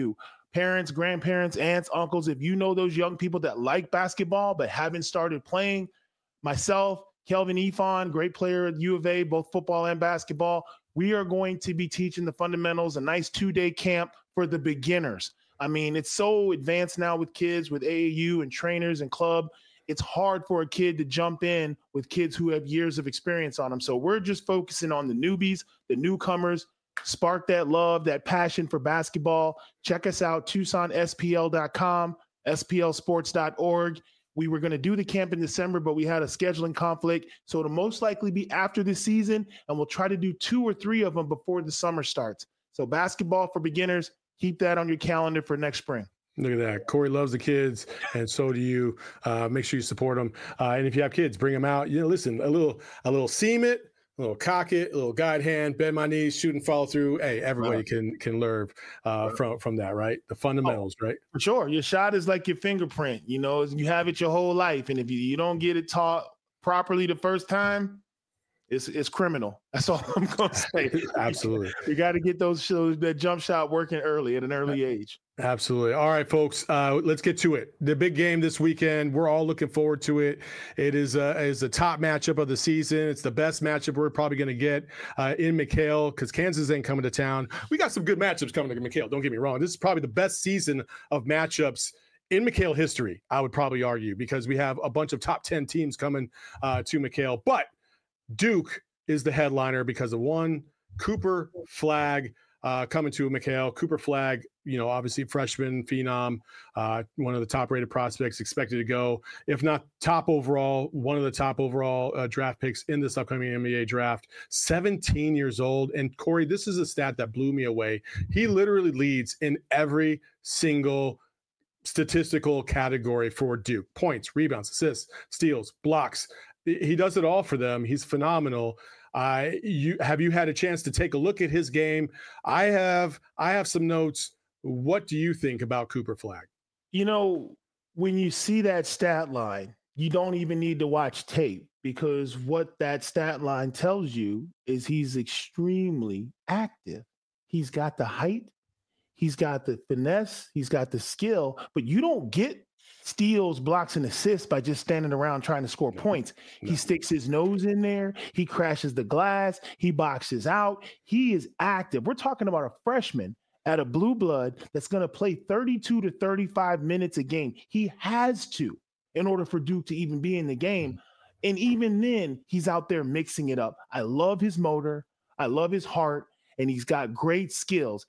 parents, grandparents, aunts, uncles, if you know those young people that like basketball but haven't started playing, myself, Kelvin Ifon, great player at U of A, both football and basketball, we are going to be teaching the fundamentals, a nice 2-day camp for the beginners. I mean, it's so advanced now with kids, with AAU and trainers and club. It's hard for a kid to jump in with kids who have years of experience on them. So we're just focusing on the newbies, the newcomers, spark that love, that passion for basketball. Check us out, TucsonSPL.com, SPLsports.org. We were going to do the camp in December, but we had a scheduling conflict. So it'll most likely be after this season, and we'll try to do 2 or 3 of them before the summer starts. So basketball for beginners, keep that on your calendar for next spring. Look at that. Corey loves the kids, and so do you. Make sure you support them. And if you have kids, bring them out. Listen, a little seam it, a little cock it, a little guide hand, bend my knees, shoot and follow through. Hey, everybody can learn from that, right? The fundamentals, right? For sure. Your shot is like your fingerprint. You have it your whole life, and if you don't get it taught properly the first time, it's criminal. That's all I'm going to say. Absolutely. You got to get that jump shot working early at an early age. Absolutely. All right, folks, let's get to it. The big game this weekend. We're all looking forward to it. It is a top matchup of the season. It's the best matchup we're probably going to get in McKale because Kansas ain't coming to town. We got some good matchups coming to McKale. Don't get me wrong. This is probably the best season of matchups in McKale history, I would probably argue, because we have a bunch of top 10 teams coming to McKale. But Duke is the headliner because of one, Cooper Flagg coming to McKale. Cooper Flagg, obviously freshman phenom, one of the top-rated prospects, expected to go, if not top overall, one of the top overall draft picks in this upcoming NBA draft. 17 years old. And Corey, this is a stat that blew me away. He literally leads in every single statistical category for Duke: points, rebounds, assists, steals, blocks. He does it all for them. He's phenomenal. Have you had a chance to take a look at his game? I have some notes. What do you think about Cooper Flagg? When you see that stat line, you don't even need to watch tape, because what that stat line tells you is he's extremely active. He's got the height, he's got the finesse, he's got the skill, but you don't get steals, blocks, and assists by just standing around trying to score points. He sticks his nose in there. He crashes the glass. He boxes out. He is active. We're talking about a freshman at a blue blood that's going to play 32 to 35 minutes a game. He has to, in order for Duke to even be in the game. And even then, he's out there mixing it up. I love his motor. I love his heart. And he's got great skills.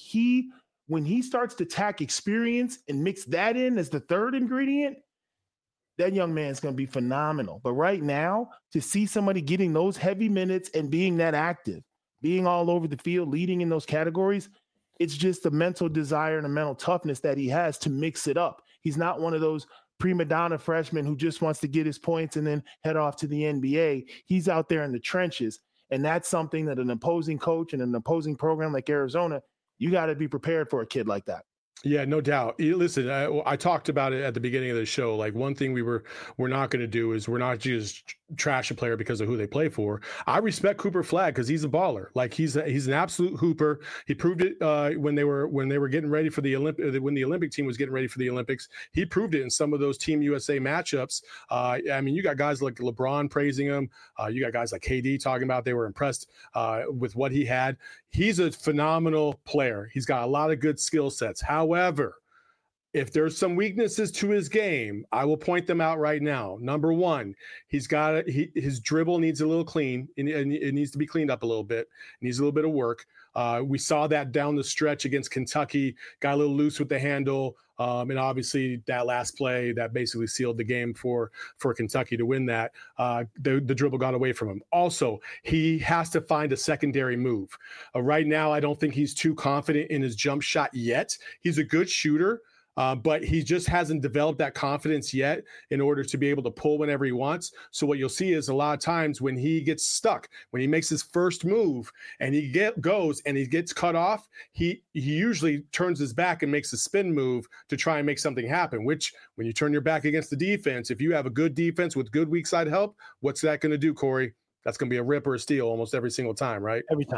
When he starts to tack experience and mix that in as the third ingredient, that young man's going to be phenomenal. But right now, to see somebody getting those heavy minutes and being that active, being all over the field, leading in those categories, it's just a mental desire and a mental toughness that he has to mix it up. He's not one of those prima donna freshmen who just wants to get his points and then head off to the NBA. He's out there in the trenches. And that's something that an opposing coach and an opposing program like Arizona, you got to be prepared for a kid like that. Yeah, no doubt. Listen, I talked about it at the beginning of the show. Like, one thing we're not going to do is we're not just trash a player because of who they play for. I respect Cooper Flagg because he's a baller. Like, he's an absolute hooper. He proved it when they were getting ready for the when the Olympic team was getting ready for the Olympics. He proved it in some of those Team USA matchups. I mean, you got guys like LeBron praising him. You got guys like KD talking about they were impressed with what he had. He's a phenomenal player. He's got a lot of good skill sets. However, if there's some weaknesses to his game, I will point them out right now. Number one, his dribble needs a little clean. It needs to be cleaned up a little bit. It needs a little bit of work. We saw that down the stretch against Kentucky, got a little loose with the handle. And obviously that last play that basically sealed the game for Kentucky to win that, the dribble got away from him. Also, he has to find a secondary move. Right now, I don't think he's too confident in his jump shot yet. He's a good shooter. But he just hasn't developed that confidence yet in order to be able to pull whenever he wants. So what you'll see is a lot of times when he gets stuck, when he makes his first move and he goes and he gets cut off, he usually turns his back and makes a spin move to try and make something happen, which when you turn your back against the defense, if you have a good defense with good weak side help, what's that going to do, Corey? That's going to be a rip or a steal almost every single time, right? Every time.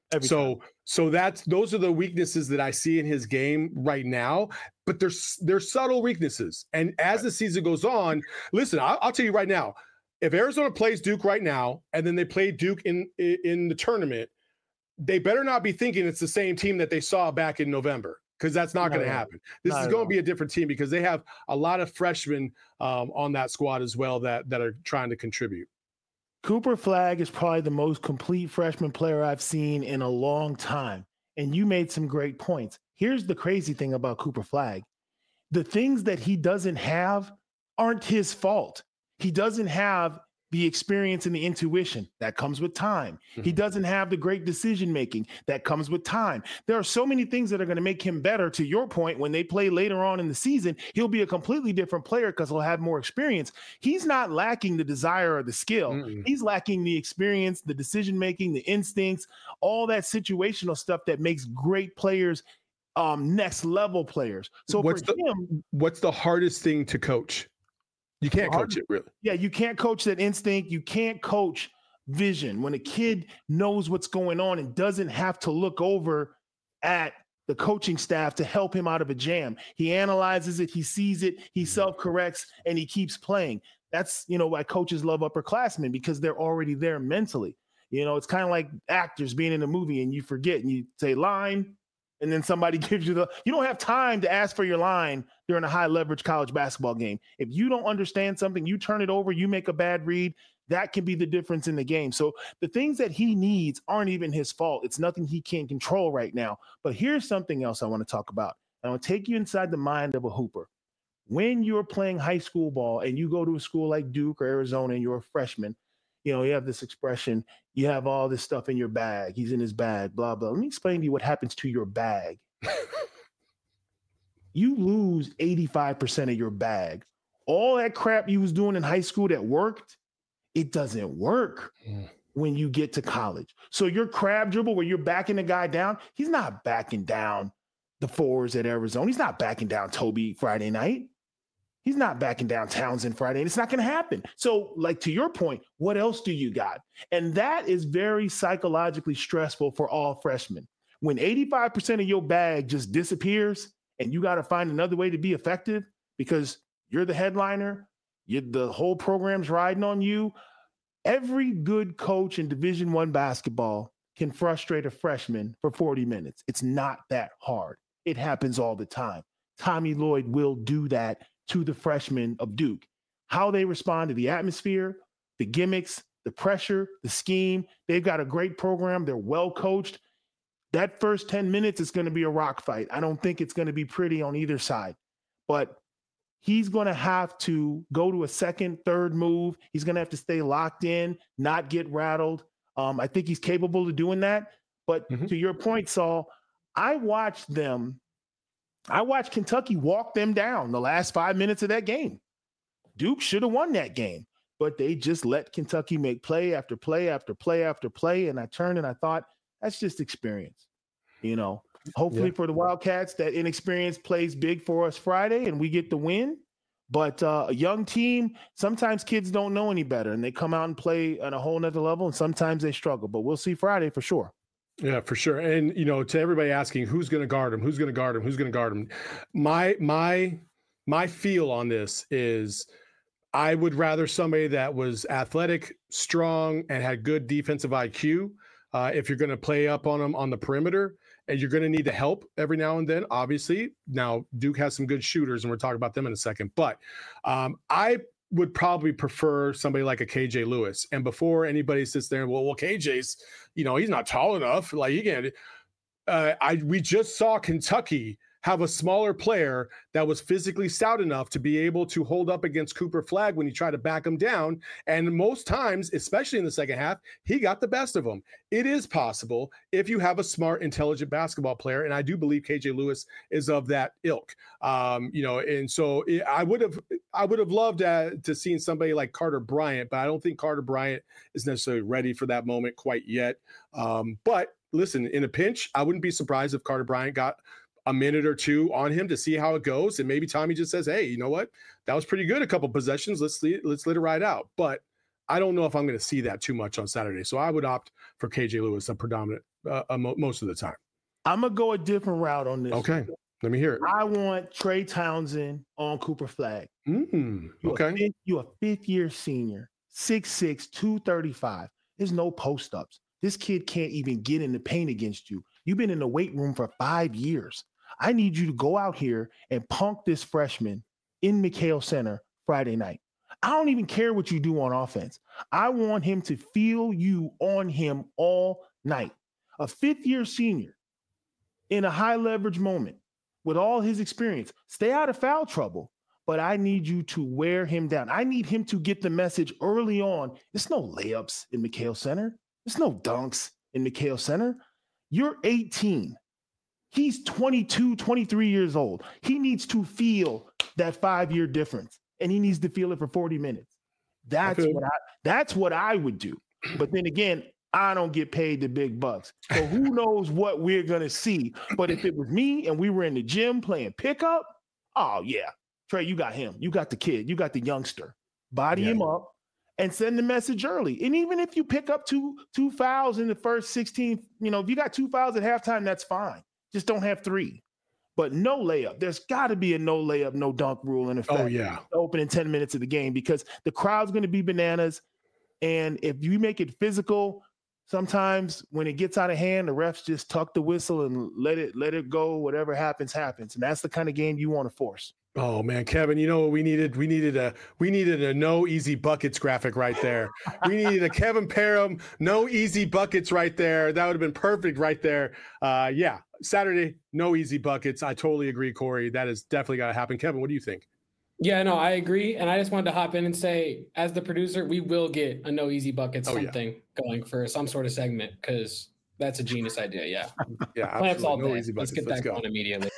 So those are the weaknesses that I see in his game right now, but they're subtle weaknesses. And as the season goes on, listen, I'll tell you right now, if Arizona plays Duke right now, and then they play Duke in the tournament, they better not be thinking it's the same team that they saw back in November, because that's not going to happen. This is going to be a different team because they have a lot of freshmen on that squad as well that are trying to contribute. Cooper Flagg is probably the most complete freshman player I've seen in a long time. And you made some great points. Here's the crazy thing about Cooper Flagg. The things that he doesn't have aren't his fault. He doesn't have the experience and the intuition that comes with time. Mm-hmm. He doesn't have the great decision-making that comes with time. There are so many things that are going to make him better. To your point, when they play later on in the season, he'll be a completely different player because he'll have more experience. He's not lacking the desire or the skill. Mm-hmm. He's lacking the experience, the decision-making, the instincts, all that situational stuff that makes great players next level players. So what's the hardest thing to coach? You can't coach it, really. Yeah, you can't coach that instinct. You can't coach vision. When a kid knows what's going on and doesn't have to look over at the coaching staff to help him out of a jam. He analyzes it, he sees it, he self-corrects, and he keeps playing. That's, why coaches love upperclassmen, because they're already there mentally. It's kind of like actors being in a movie and you forget and you say line, and then somebody gives you you don't have time to ask for your line during a high leverage college basketball game. If you don't understand something, you turn it over, you make a bad read, that can be the difference in the game. So the things that he needs aren't even his fault. It's nothing he can control right now. But here's something else I want to talk about. I want to take you inside the mind of a hooper. When you're playing high school ball and you go to a school like Duke or Arizona and you're a freshman, you have this expression, you have all this stuff in your bag. He's in his bag, blah, blah. Let me explain to you what happens to your bag. You lose 85% of your bag. All that crap you was doing in high school that worked, it doesn't work when you get to college. So your crab dribble where you're backing the guy down, he's not backing down the fours at Arizona. He's not backing down Toby Friday night. He's not backing down Townsend Friday, and it's not going to happen. So, to your point, what else do you got? And that is very psychologically stressful for all freshmen. When 85% of your bag just disappears and you got to find another way to be effective because you're the headliner, the whole program's riding on you. Every good coach in Division I basketball can frustrate a freshman for 40 minutes. It's not that hard. It happens all the time. Tommy Lloyd will do that to the freshmen of Duke. How they respond to the atmosphere, the gimmicks, the pressure, the scheme. They've got a great program. They're well coached. That first 10 minutes is going to be a rock fight. I don't think it's going to be pretty on either side. But he's going to have to go to a second, third move. He's going to have to stay locked in, not get rattled. I think he's capable of doing that. But to your point, Saul, I watched Kentucky walk them down the last 5 minutes of that game. Duke should have won that game, but they just let Kentucky make play after play after play after play. And I turned and I thought, that's just experience. Hopefully for the Wildcats, that inexperience plays big for us Friday and we get the win. But a young team, sometimes kids don't know any better and they come out and play at a whole nother level, and sometimes they struggle. But we'll see Friday for sure. Yeah, for sure. And, to everybody asking who's going to guard him, who's going to guard him, who's going to guard him, my feel on this is I would rather somebody that was athletic, strong, and had good defensive IQ. If you're going to play up on them on the perimeter, and you're going to need the help every now and then, obviously. Now, Duke has some good shooters, and we're talking about them in a second. But I would probably prefer somebody like a KJ Lewis. And before anybody sits there and, well, KJ's, he's not tall enough. Like, you can't. We just saw Kentucky have a smaller player that was physically stout enough to be able to hold up against Cooper Flagg when he tried to back him down. And most times, especially in the second half, he got the best of him. It is possible if you have a smart, intelligent basketball player. And I do believe KJ Lewis is of that ilk. And so I would have loved to seen somebody like Carter Bryant, but I don't think Carter Bryant is necessarily ready for that moment quite yet. But listen, in a pinch, I wouldn't be surprised if Carter Bryant got a minute or two on him to see how it goes. And maybe Tommy just says, hey, you know what? That was pretty good. A couple possessions. Let's let it ride out. But I don't know if I'm going to see that too much on Saturday. So I would opt for KJ Lewis, a predominant most of the time. I'm going to go a different route on this. Okay. Let me hear it. I want Trey Townsend on Cooper Flag. Okay. You're a fifth-year senior, 6'6", 235. There's no post-ups. This kid can't even get in the paint against you. You've been in the weight room for 5 years. I need you to go out here and punk this freshman in McHale Center Friday night. I don't even care what you do on offense. I want him to feel you on him all night. A fifth-year senior in a high-leverage moment with all his experience, stay out of foul trouble, but I need you to wear him down. I need him to get the message early on. There's no layups in McHale Center. There's no dunks in McHale Center. You're 18. He's 22, 23 years old. He needs to feel that 5-year difference, and he needs to feel it for 40 minutes. That's what I would do. But then again, I don't get paid the big bucks. So who knows what we're going to see. But if it was me and we were in the gym playing pickup, oh, yeah. Trey, you got him. You got the kid. You got the youngster. Body him up and send the message early. And even if you pick up two fouls in the first 16, if you got 2 fouls at halftime, that's fine. Just don't have 3. But no layup. There's got to be a no layup, no dunk rule in effect. Oh, yeah. Opening 10 minutes of the game because the crowd's going to be bananas. And if you make it physical, sometimes when it gets out of hand, the refs just tuck the whistle and let it go. Whatever happens, happens. And that's the kind of game you want to force. Oh man, Kevin, you know what we needed? We needed a no easy buckets graphic right there. We needed a Kevin Parham, no easy buckets right there. That would have been perfect right there. Yeah, Saturday, no easy buckets. I totally agree, Corey. That is definitely got to happen. Kevin, what do you think? Yeah, no, I agree. And I just wanted to hop in and say, as the producer, we will get a no easy buckets going for some sort of segment because that's a genius idea. Yeah. Yeah. Plants all day. Easy buckets. Let's get that going immediately.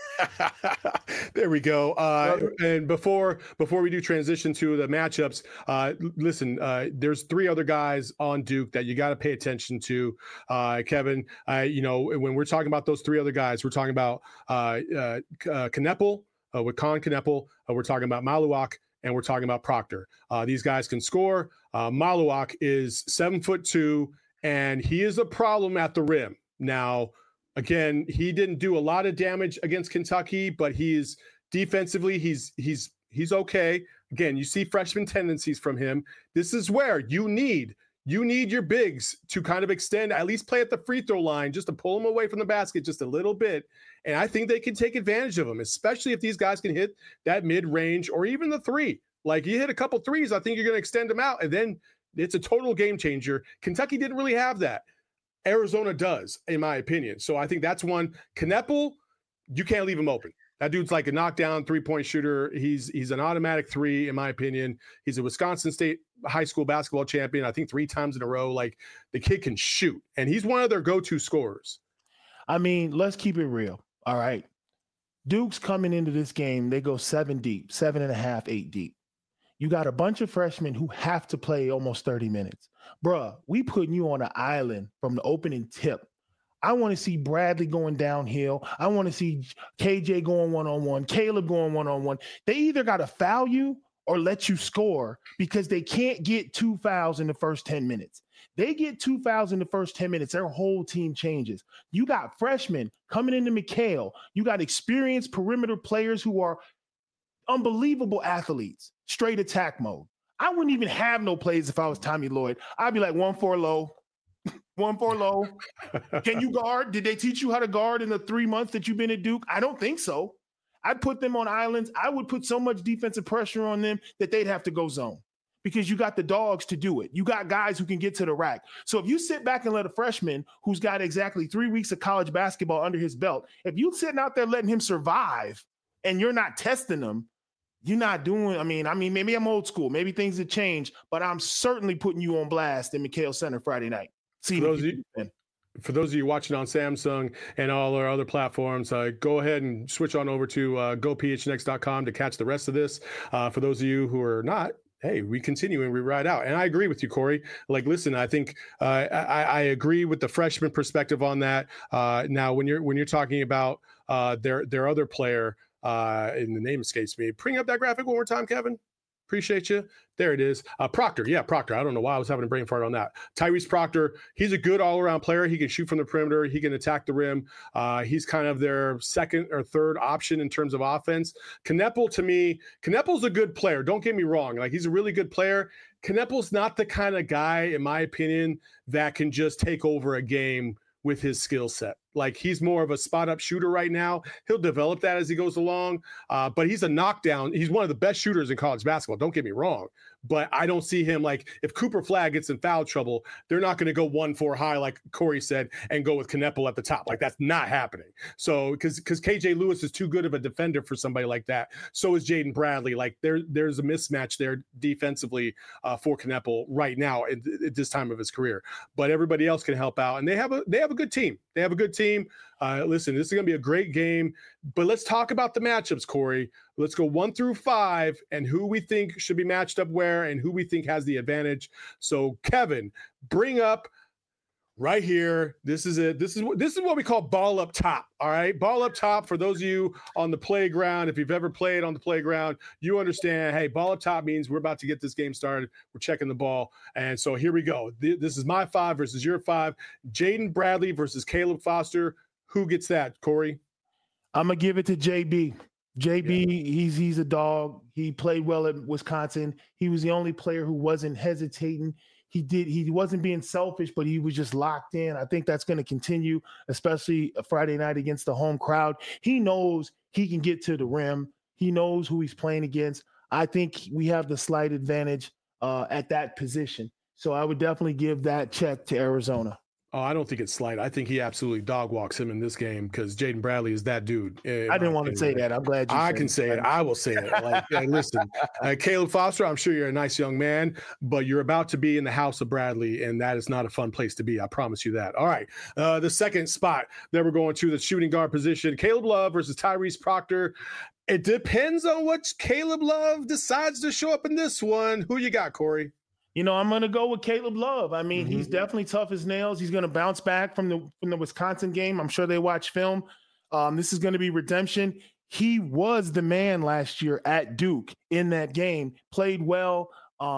There we go. And before we do transition to the matchups, listen, there's 3 other guys on Duke that you got to pay attention to. Kevin, when we're talking about those 3 other guys, we're talking about Kneppel, with Colin Kneppel. We're talking about Maluak, and we're talking about Proctor. These guys can score. Maluak is 7'2", and he is a problem at the rim. Now, again, he didn't do a lot of damage against Kentucky, but he's defensively, he's okay. Again, you see freshman tendencies from him. This is where you need your bigs to kind of extend, at least play at the free throw line, just to pull them away from the basket just a little bit. And I think they can take advantage of them, especially if these guys can hit that mid-range or even the 3. Like, you hit a couple threes, I think you're going to extend them out, and then it's a total game changer. Kentucky didn't really have that. Arizona does, in my opinion. So I think that's one. Kneppel, you can't leave him open. That dude's like a knockdown 3-point shooter. He's an automatic 3, in my opinion. He's a Wisconsin State high school basketball champion, I think 3 times in a row. Like, the kid can shoot, and he's one of their go-to scorers. I mean, let's keep it real. All right. Duke's coming into this game. They go 7 deep, 7.5, 8 deep. You got a bunch of freshmen who have to play almost 30 minutes. Bruh, we putting you on an island from the opening tip. I want to see Bradley going downhill. I want to see KJ going one-on-one, Caleb going one-on-one. They either got to foul you or let you score because they can't get 2 fouls in the first 10 minutes. They get 2 fouls in the first 10 minutes, their whole team changes. You got freshmen coming into McHale. You got experienced perimeter players who are unbelievable athletes, straight attack mode. I wouldn't even have no plays if I was Tommy Lloyd. I'd be like 1-4 low, 1-4 low. Can you guard? Did they teach you how to guard in the 3 months that you've been at Duke? I don't think so. I'd put them on islands. I would put so much defensive pressure on them that they'd have to go zone because you got the dogs to do it. You got guys who can get to the rack. So if you sit back and let a freshman who's got exactly 3 weeks of college basketball under his belt, if you sitting out there letting him survive and you're not testing them, you're not doing, I mean, maybe I'm old school. Maybe things have changed, but I'm certainly putting you on blast in McHale Center Friday night. For those of you watching on Samsung and all our other platforms, go ahead and switch on over to gophnx.com to catch the rest of this. For those of you who are not, hey, we continue and we ride out. And I agree with you, Corey. Like, listen, I think I agree with the freshman perspective on that. Now, when you're talking about their other player, and the name escapes me. Bring up that graphic one more time, Kevin. Appreciate you. There it is. Proctor. Yeah, Proctor. I don't know why I was having a brain fart on that. Tyrese Proctor. He's a good all-around player. He can shoot from the perimeter. He can attack the rim. He's kind of their second or third option in terms of offense. Kneppel, to me, Kneppel's a good player. Don't get me wrong. Like, he's a really good player. Kneppel's not the kind of guy, in my opinion, that can just take over a game with his skill set. Like, he's more of a spot-up shooter right now. He'll develop that as he goes along, but he's a knockdown. He's one of the best shooters in college basketball. Don't get me wrong, but I don't see him, like, if Cooper Flagg gets in foul trouble, they're not going to go 1-4 high, like Corey said, and go with Kneppel at the top. Like, that's not happening. So, because KJ Lewis is too good of a defender for somebody like that. So is Jaden Bradley. Like, there's a mismatch there defensively for Kneppel right now at this time of his career. But everybody else can help out, and they have a good team. They have a good team. Listen, this is going to be a great game, but let's talk about the matchups, Corey. Let's go 1 through 5 and who we think should be matched up where and who we think has the advantage. So, Kevin, bring up right here. This is it. This is what we call ball up top. All right, ball up top. For those of you on the playground, if you've ever played on the playground, you understand. Hey, ball up top means we're about to get this game started. We're checking the ball, and so here we go. This is my 5 versus your 5. Jaden Bradley versus Caleb Foster. Who gets that, Corey? I'm gonna give it to JB. JB, he's a dog. He played well at Wisconsin. He was the only player who wasn't hesitating. He wasn't being selfish, but he was just locked in. I think that's going to continue, especially a Friday night against the home crowd. He knows he can get to the rim. He knows who he's playing against. I think we have the slight advantage at that position. So I would definitely give that check to Arizona. Oh, I don't think it's slight. I think he absolutely dog walks him in this game because Jaden Bradley is that dude. I didn't want to say that. I'm glad you I can say it. I will say it. Like, hey, listen, Caleb Foster, I'm sure you're a nice young man, but you're about to be in the house of Bradley, and that is not a fun place to be. I promise you that. All right. The second spot that we're going to, the shooting guard position, Caleb Love versus Tyrese Proctor. It depends on what Caleb Love decides to show up in this one. Who you got, Corey? You know, I'm going to go with Caleb Love. I mean, he's definitely tough as nails. He's going to bounce back from the Wisconsin game. I'm sure they watch film. This is going to be redemption. He was the man last year at Duke in that game, played well.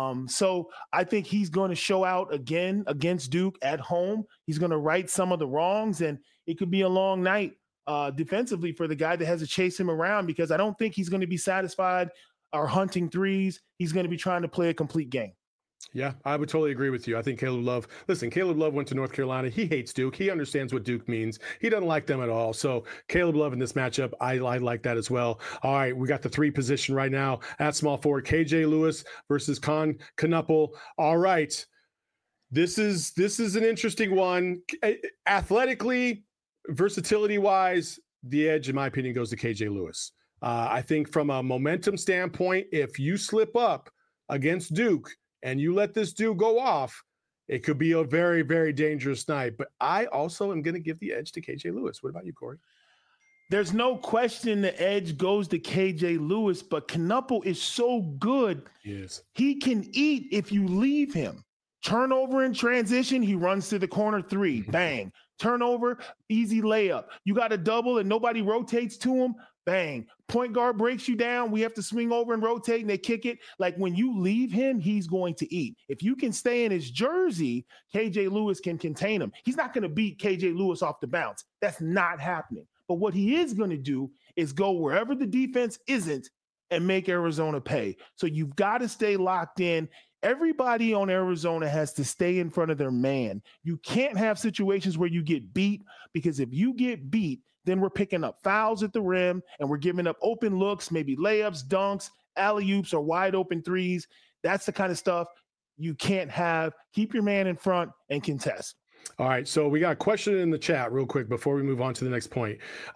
So I think he's going to show out again against Duke at home. He's going to right some of the wrongs, and it could be a long night defensively for the guy that has to chase him around, because I don't think he's going to be satisfied or hunting threes. He's going to be trying to play a complete game. Yeah, I would totally agree with you. I think Caleb Love went to North Carolina. He hates Duke. He understands what Duke means. He doesn't like them at all. So Caleb Love in this matchup, I like that as well. All right, we got the 3 position right now at small forward. KJ Lewis versus Kneppel. All right, this is an interesting one. Athletically, versatility-wise, the edge, in my opinion, goes to KJ Lewis. I think from a momentum standpoint, if you slip up against Duke and you let this dude go off, it could be a very, very dangerous night. But I also am going to give the edge to KJ Lewis. What about you, Corey? There's no question the edge goes to KJ Lewis, but Kneppel is so good. Yes. He can eat if you leave him. Turnover in transition, he runs to the corner 3. Bang. Turnover, easy layup. You got a double and nobody rotates to him. Bang. Point guard breaks you down. We have to swing over and rotate, and they kick it. Like, when you leave him, he's going to eat. If you can stay in his jersey, KJ Lewis can contain him. He's not going to beat KJ Lewis off the bounce. That's not happening. But what he is going to do is go wherever the defense isn't and make Arizona pay. So you've got to stay locked in. Everybody on Arizona has to stay in front of their man. You can't have situations where you get beat, because if you get beat, then we're picking up fouls at the rim and we're giving up open looks, maybe layups, dunks, alley-oops, or wide open threes. That's the kind of stuff you can't have. Keep your man in front and contest. All right, so we got a question in the chat real quick before we move on to the next point.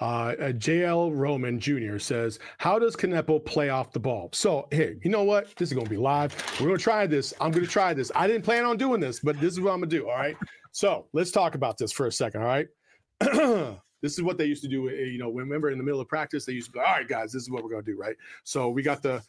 JL Roman Jr. says, how does Kneppel play off the ball? So, hey, you know what? This is going to be live. We're going to try this. I'm going to try this. I didn't plan on doing this, but this is what I'm going to do, all right? So let's talk about this for a second, all right? This is what they used to do. You know, remember in the middle of practice, they used to be like, all right, guys, this is what we're going to do, right? So we got the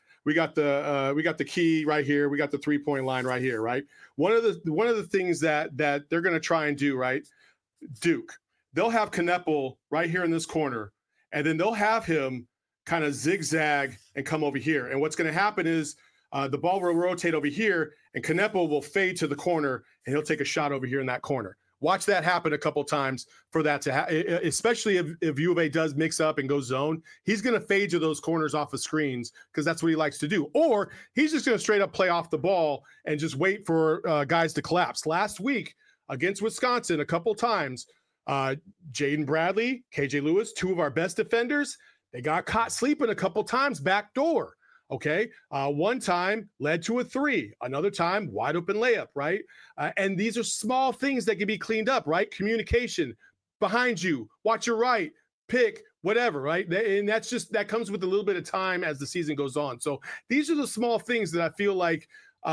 key right here. We got the 3-point line right here, right? One of the things that they're going to try and do, right? Duke, they'll have Kneppel right here in this corner, and then they'll have him kind of zigzag and come over here. And what's going to happen is the ball will rotate over here, and Canepo will fade to the corner, and he'll take a shot over here in that corner. Watch that happen a couple times for that to happen, especially if U of A does mix up and go zone. He's going to fade to those corners off of screens because that's what he likes to do. Or he's just going to straight up play off the ball and just wait for guys to collapse. Last week against Wisconsin, a couple times, Jaden Bradley, KJ Lewis, two of our best defenders, they got caught sleeping a couple times back door. Okay. One time led to a 3, another time wide open layup, right? And these are small things that can be cleaned up, right? Communication behind you, watch your right, pick, whatever, right? And that comes with a little bit of time as the season goes on. So these are the small things that I feel like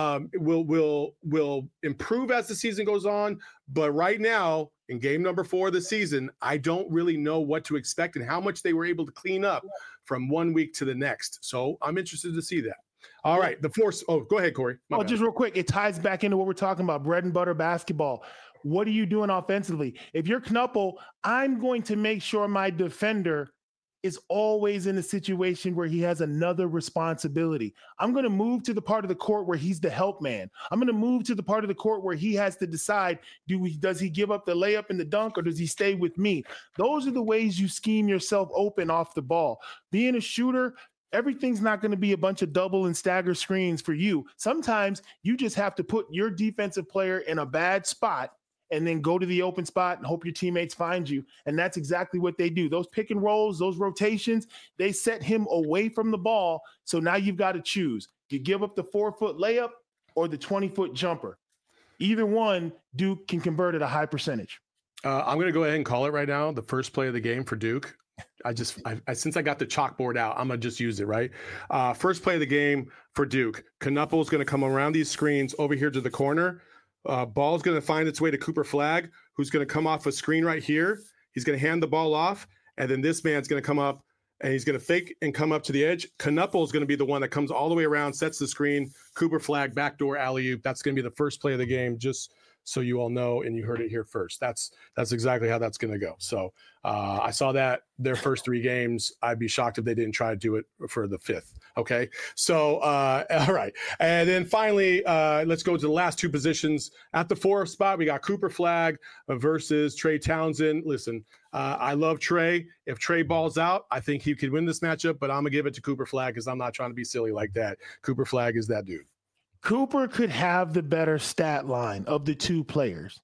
will improve as the season goes on. But right now, in game number 4 of the season, I don't really know what to expect and how much they were able to clean up from one week to the next. So I'm interested to see that. All right. The force. Oh, go ahead, Corey. Just real quick. It ties back into what we're talking about, bread and butter basketball. What are you doing offensively? If you're Knuppel, I'm going to make sure my defender is always in a situation where he has another responsibility. I'm going to move to the part of the court where he's the help man. I'm going to move to the part of the court where he has to decide, does he give up the layup and the dunk, or does he stay with me? Those are the ways you scheme yourself open off the ball. Being a shooter, everything's not going to be a bunch of double and stagger screens for you. Sometimes you just have to put your defensive player in a bad spot and then go to the open spot and hope your teammates find you. And that's exactly what they do. Those pick and rolls, those rotations, they set him away from the ball. So now you've got to choose. You give up the 4-foot layup or the 20-foot jumper. Either one, Duke can convert at a high percentage. I'm going to go ahead and call it right now. The first play of the game for Duke. Since I got the chalkboard out, I'm going to just use it, right? First play of the game for Duke. Knuppel's going to come around these screens over here to the corner. Ball's going to find its way to Cooper Flagg, who's going to come off a screen right here. He's going to hand the ball off, and then this man's going to come up, and he's going to fake and come up to the edge. Knuppel is going to be the one that comes all the way around, sets the screen, Cooper Flagg, backdoor alley-oop. That's going to be the first play of the game, just so you all know, and you heard it here first. That's exactly how that's going to go. So I saw that their first 3 games. I'd be shocked if they didn't try to do it for the 5th. Okay. So, all right. And then finally, let's go to the last 2 positions. At the 4 spot, we got Cooper Flagg versus Trey Townsend. Listen, I love Trey. If Trey balls out, I think he could win this matchup, but I'm going to give it to Cooper Flagg because I'm not trying to be silly like that. Cooper Flagg is that dude. Cooper could have the better stat line of the 2 players,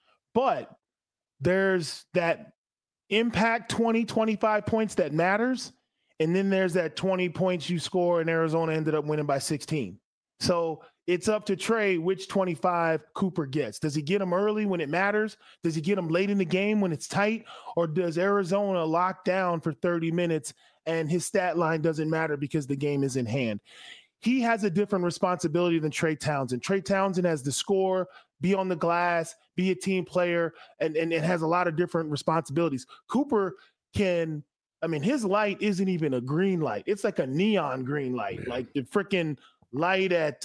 but there's that impact 20, 25 points that matters. And then there's that 20 points you score and Arizona ended up winning by 16. So it's up to Trey which 25 Cooper gets. Does he get them early when it matters? Does he get them late in the game when it's tight? Or does Arizona lock down for 30 minutes and his stat line doesn't matter because the game is in hand? He has a different responsibility than Trey Townsend. Trey Townsend has to score, be on the glass, be a team player, and it has a lot of different responsibilities. Cooper can, his light isn't even a green light. It's like a neon green light, like the freaking light at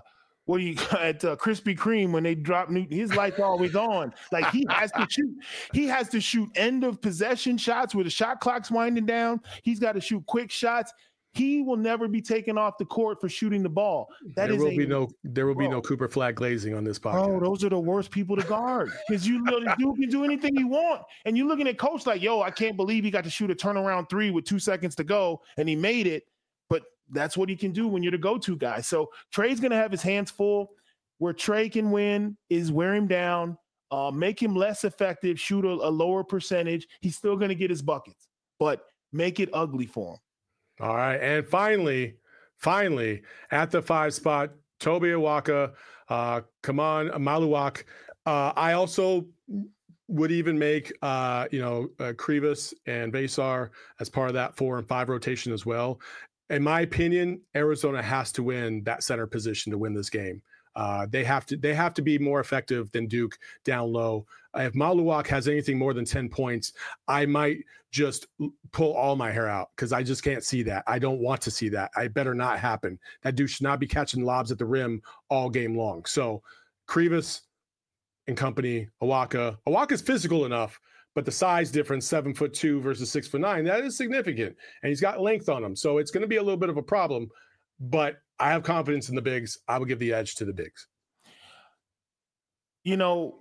Krispy Kreme when they drop his light's always on. Like he has to shoot end of possession shots where the shot clock's winding down. He's got to shoot quick shots. He will never be taken off the court for shooting the ball. There will be no Cooper Flagg glazing on this podcast. Oh, those are the worst people to guard because you can do anything you want. And you're looking at coach like, I can't believe he got to shoot a turnaround 3 with 2 seconds to go and he made it. But that's what he can do when you're the go-to guy. So Trey's going to have his hands full. Where Trey can win is wear him down, make him less effective, shoot a lower percentage. He's still going to get his buckets, but make it ugly for him. All right. And finally, at the 5 spot, Toby Awaka, Kaman Maluak. I also would even make, Krivas and Vesar as part of that 4 and 5 rotation as well. In my opinion, Arizona has to win that center position to win this game. They have to be more effective than Duke down low. If Maluak has anything more than 10 points, I might just pull all my hair out because I just can't see that. I don't want to see that. I better not happen. That dude should not be catching lobs at the rim all game long. So Krivas and company, Awaka's physical enough, but the size difference, 7'2" versus 6'9", that is significant. And he's got length on him. So it's going to be a little bit of a problem. But I have confidence in the bigs. I will give the edge to the bigs. You know,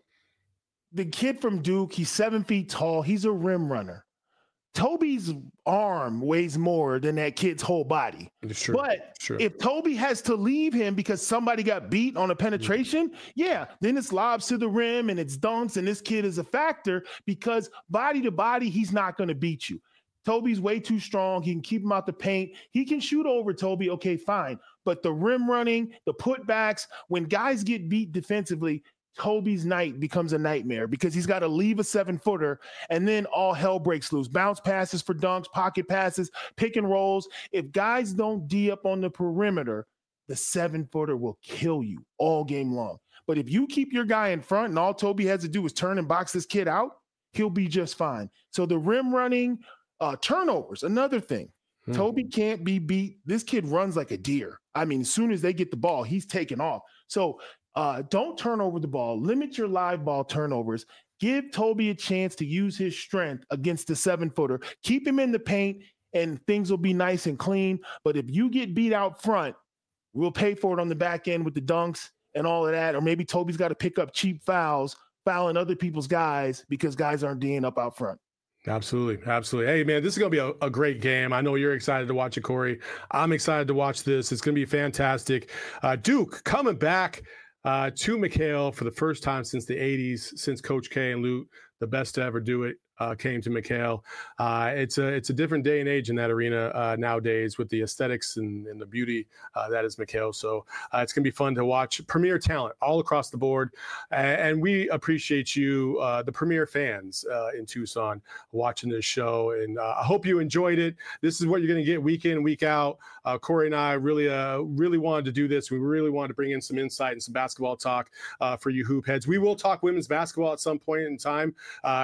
the kid from Duke, he's 7 feet tall. He's a rim runner. Toby's arm weighs more than that kid's whole body. But if Toby has to leave him because somebody got beat on a penetration, then it's lobs to the rim and it's dunks, and this kid is a factor because body to body, he's not going to beat you. Toby's way too strong. He can keep him out the paint. He can shoot over Toby. Okay, fine. But the rim running, the putbacks, when guys get beat defensively, Toby's night becomes a nightmare because he's got to leave a 7-footer and then all hell breaks loose. Bounce passes for dunks, pocket passes, pick and rolls. If guys don't D up on the perimeter, the 7-footer will kill you all game long. But if you keep your guy in front and all Toby has to do is turn and box this kid out, he'll be just fine. So the rim running, turnovers, another thing. Toby can't be beat. This kid runs like a deer. I mean, as soon as they get the ball, he's taking off. So don't turn over the ball. Limit your live ball turnovers. Give Toby a chance to use his strength against the 7-footer. Keep him in the paint, and things will be nice and clean. But if you get beat out front, we'll pay for it on the back end with the dunks and all of that. Or maybe Toby's got to pick up cheap fouls, fouling other people's guys because guys aren't D'ing up out front. Absolutely. Hey, man, this is going to be a great game. I know you're excited to watch it, Corey. I'm excited to watch this. It's going to be fantastic. Duke coming back to McHale for the first time since the 80s, since Coach K and Lute, the best to ever do it, came to McHale. It's a different day and age in that arena nowadays with the aesthetics and the beauty that is McHale. So it's going to be fun to watch premier talent all across the board. And we appreciate you, the premier fans in Tucson, watching this show. And I hope you enjoyed it. This is what you're going to get week in, week out. Corey and I really wanted to do this. We really wanted to bring in some insight and some basketball talk for you hoop heads. We will talk women's basketball at some point in time.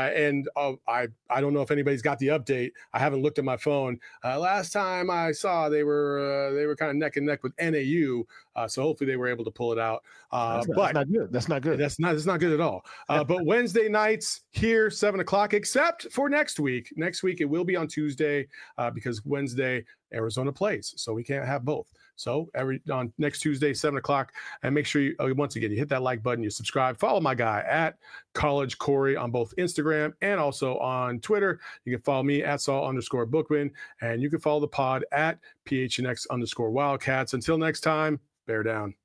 I don't know if anybody's got the update. I haven't looked at my phone. Last time I saw they were kind of neck and neck with NAU. So hopefully they were able to pull it out. That's not good. That's not good. That's not good at all. But Wednesday nights here, 7:00, except for next week. Next week it will be on Tuesday because Wednesday Arizona plays, so we can't have both. So on next Tuesday, 7:00, and make sure you once again you hit that like button, you subscribe, follow my guy at College Corey on both Instagram and also on Twitter. You can follow me at Saul_Bookman, and you can follow the pod at PHNX_Wildcats. Until next time, bear down.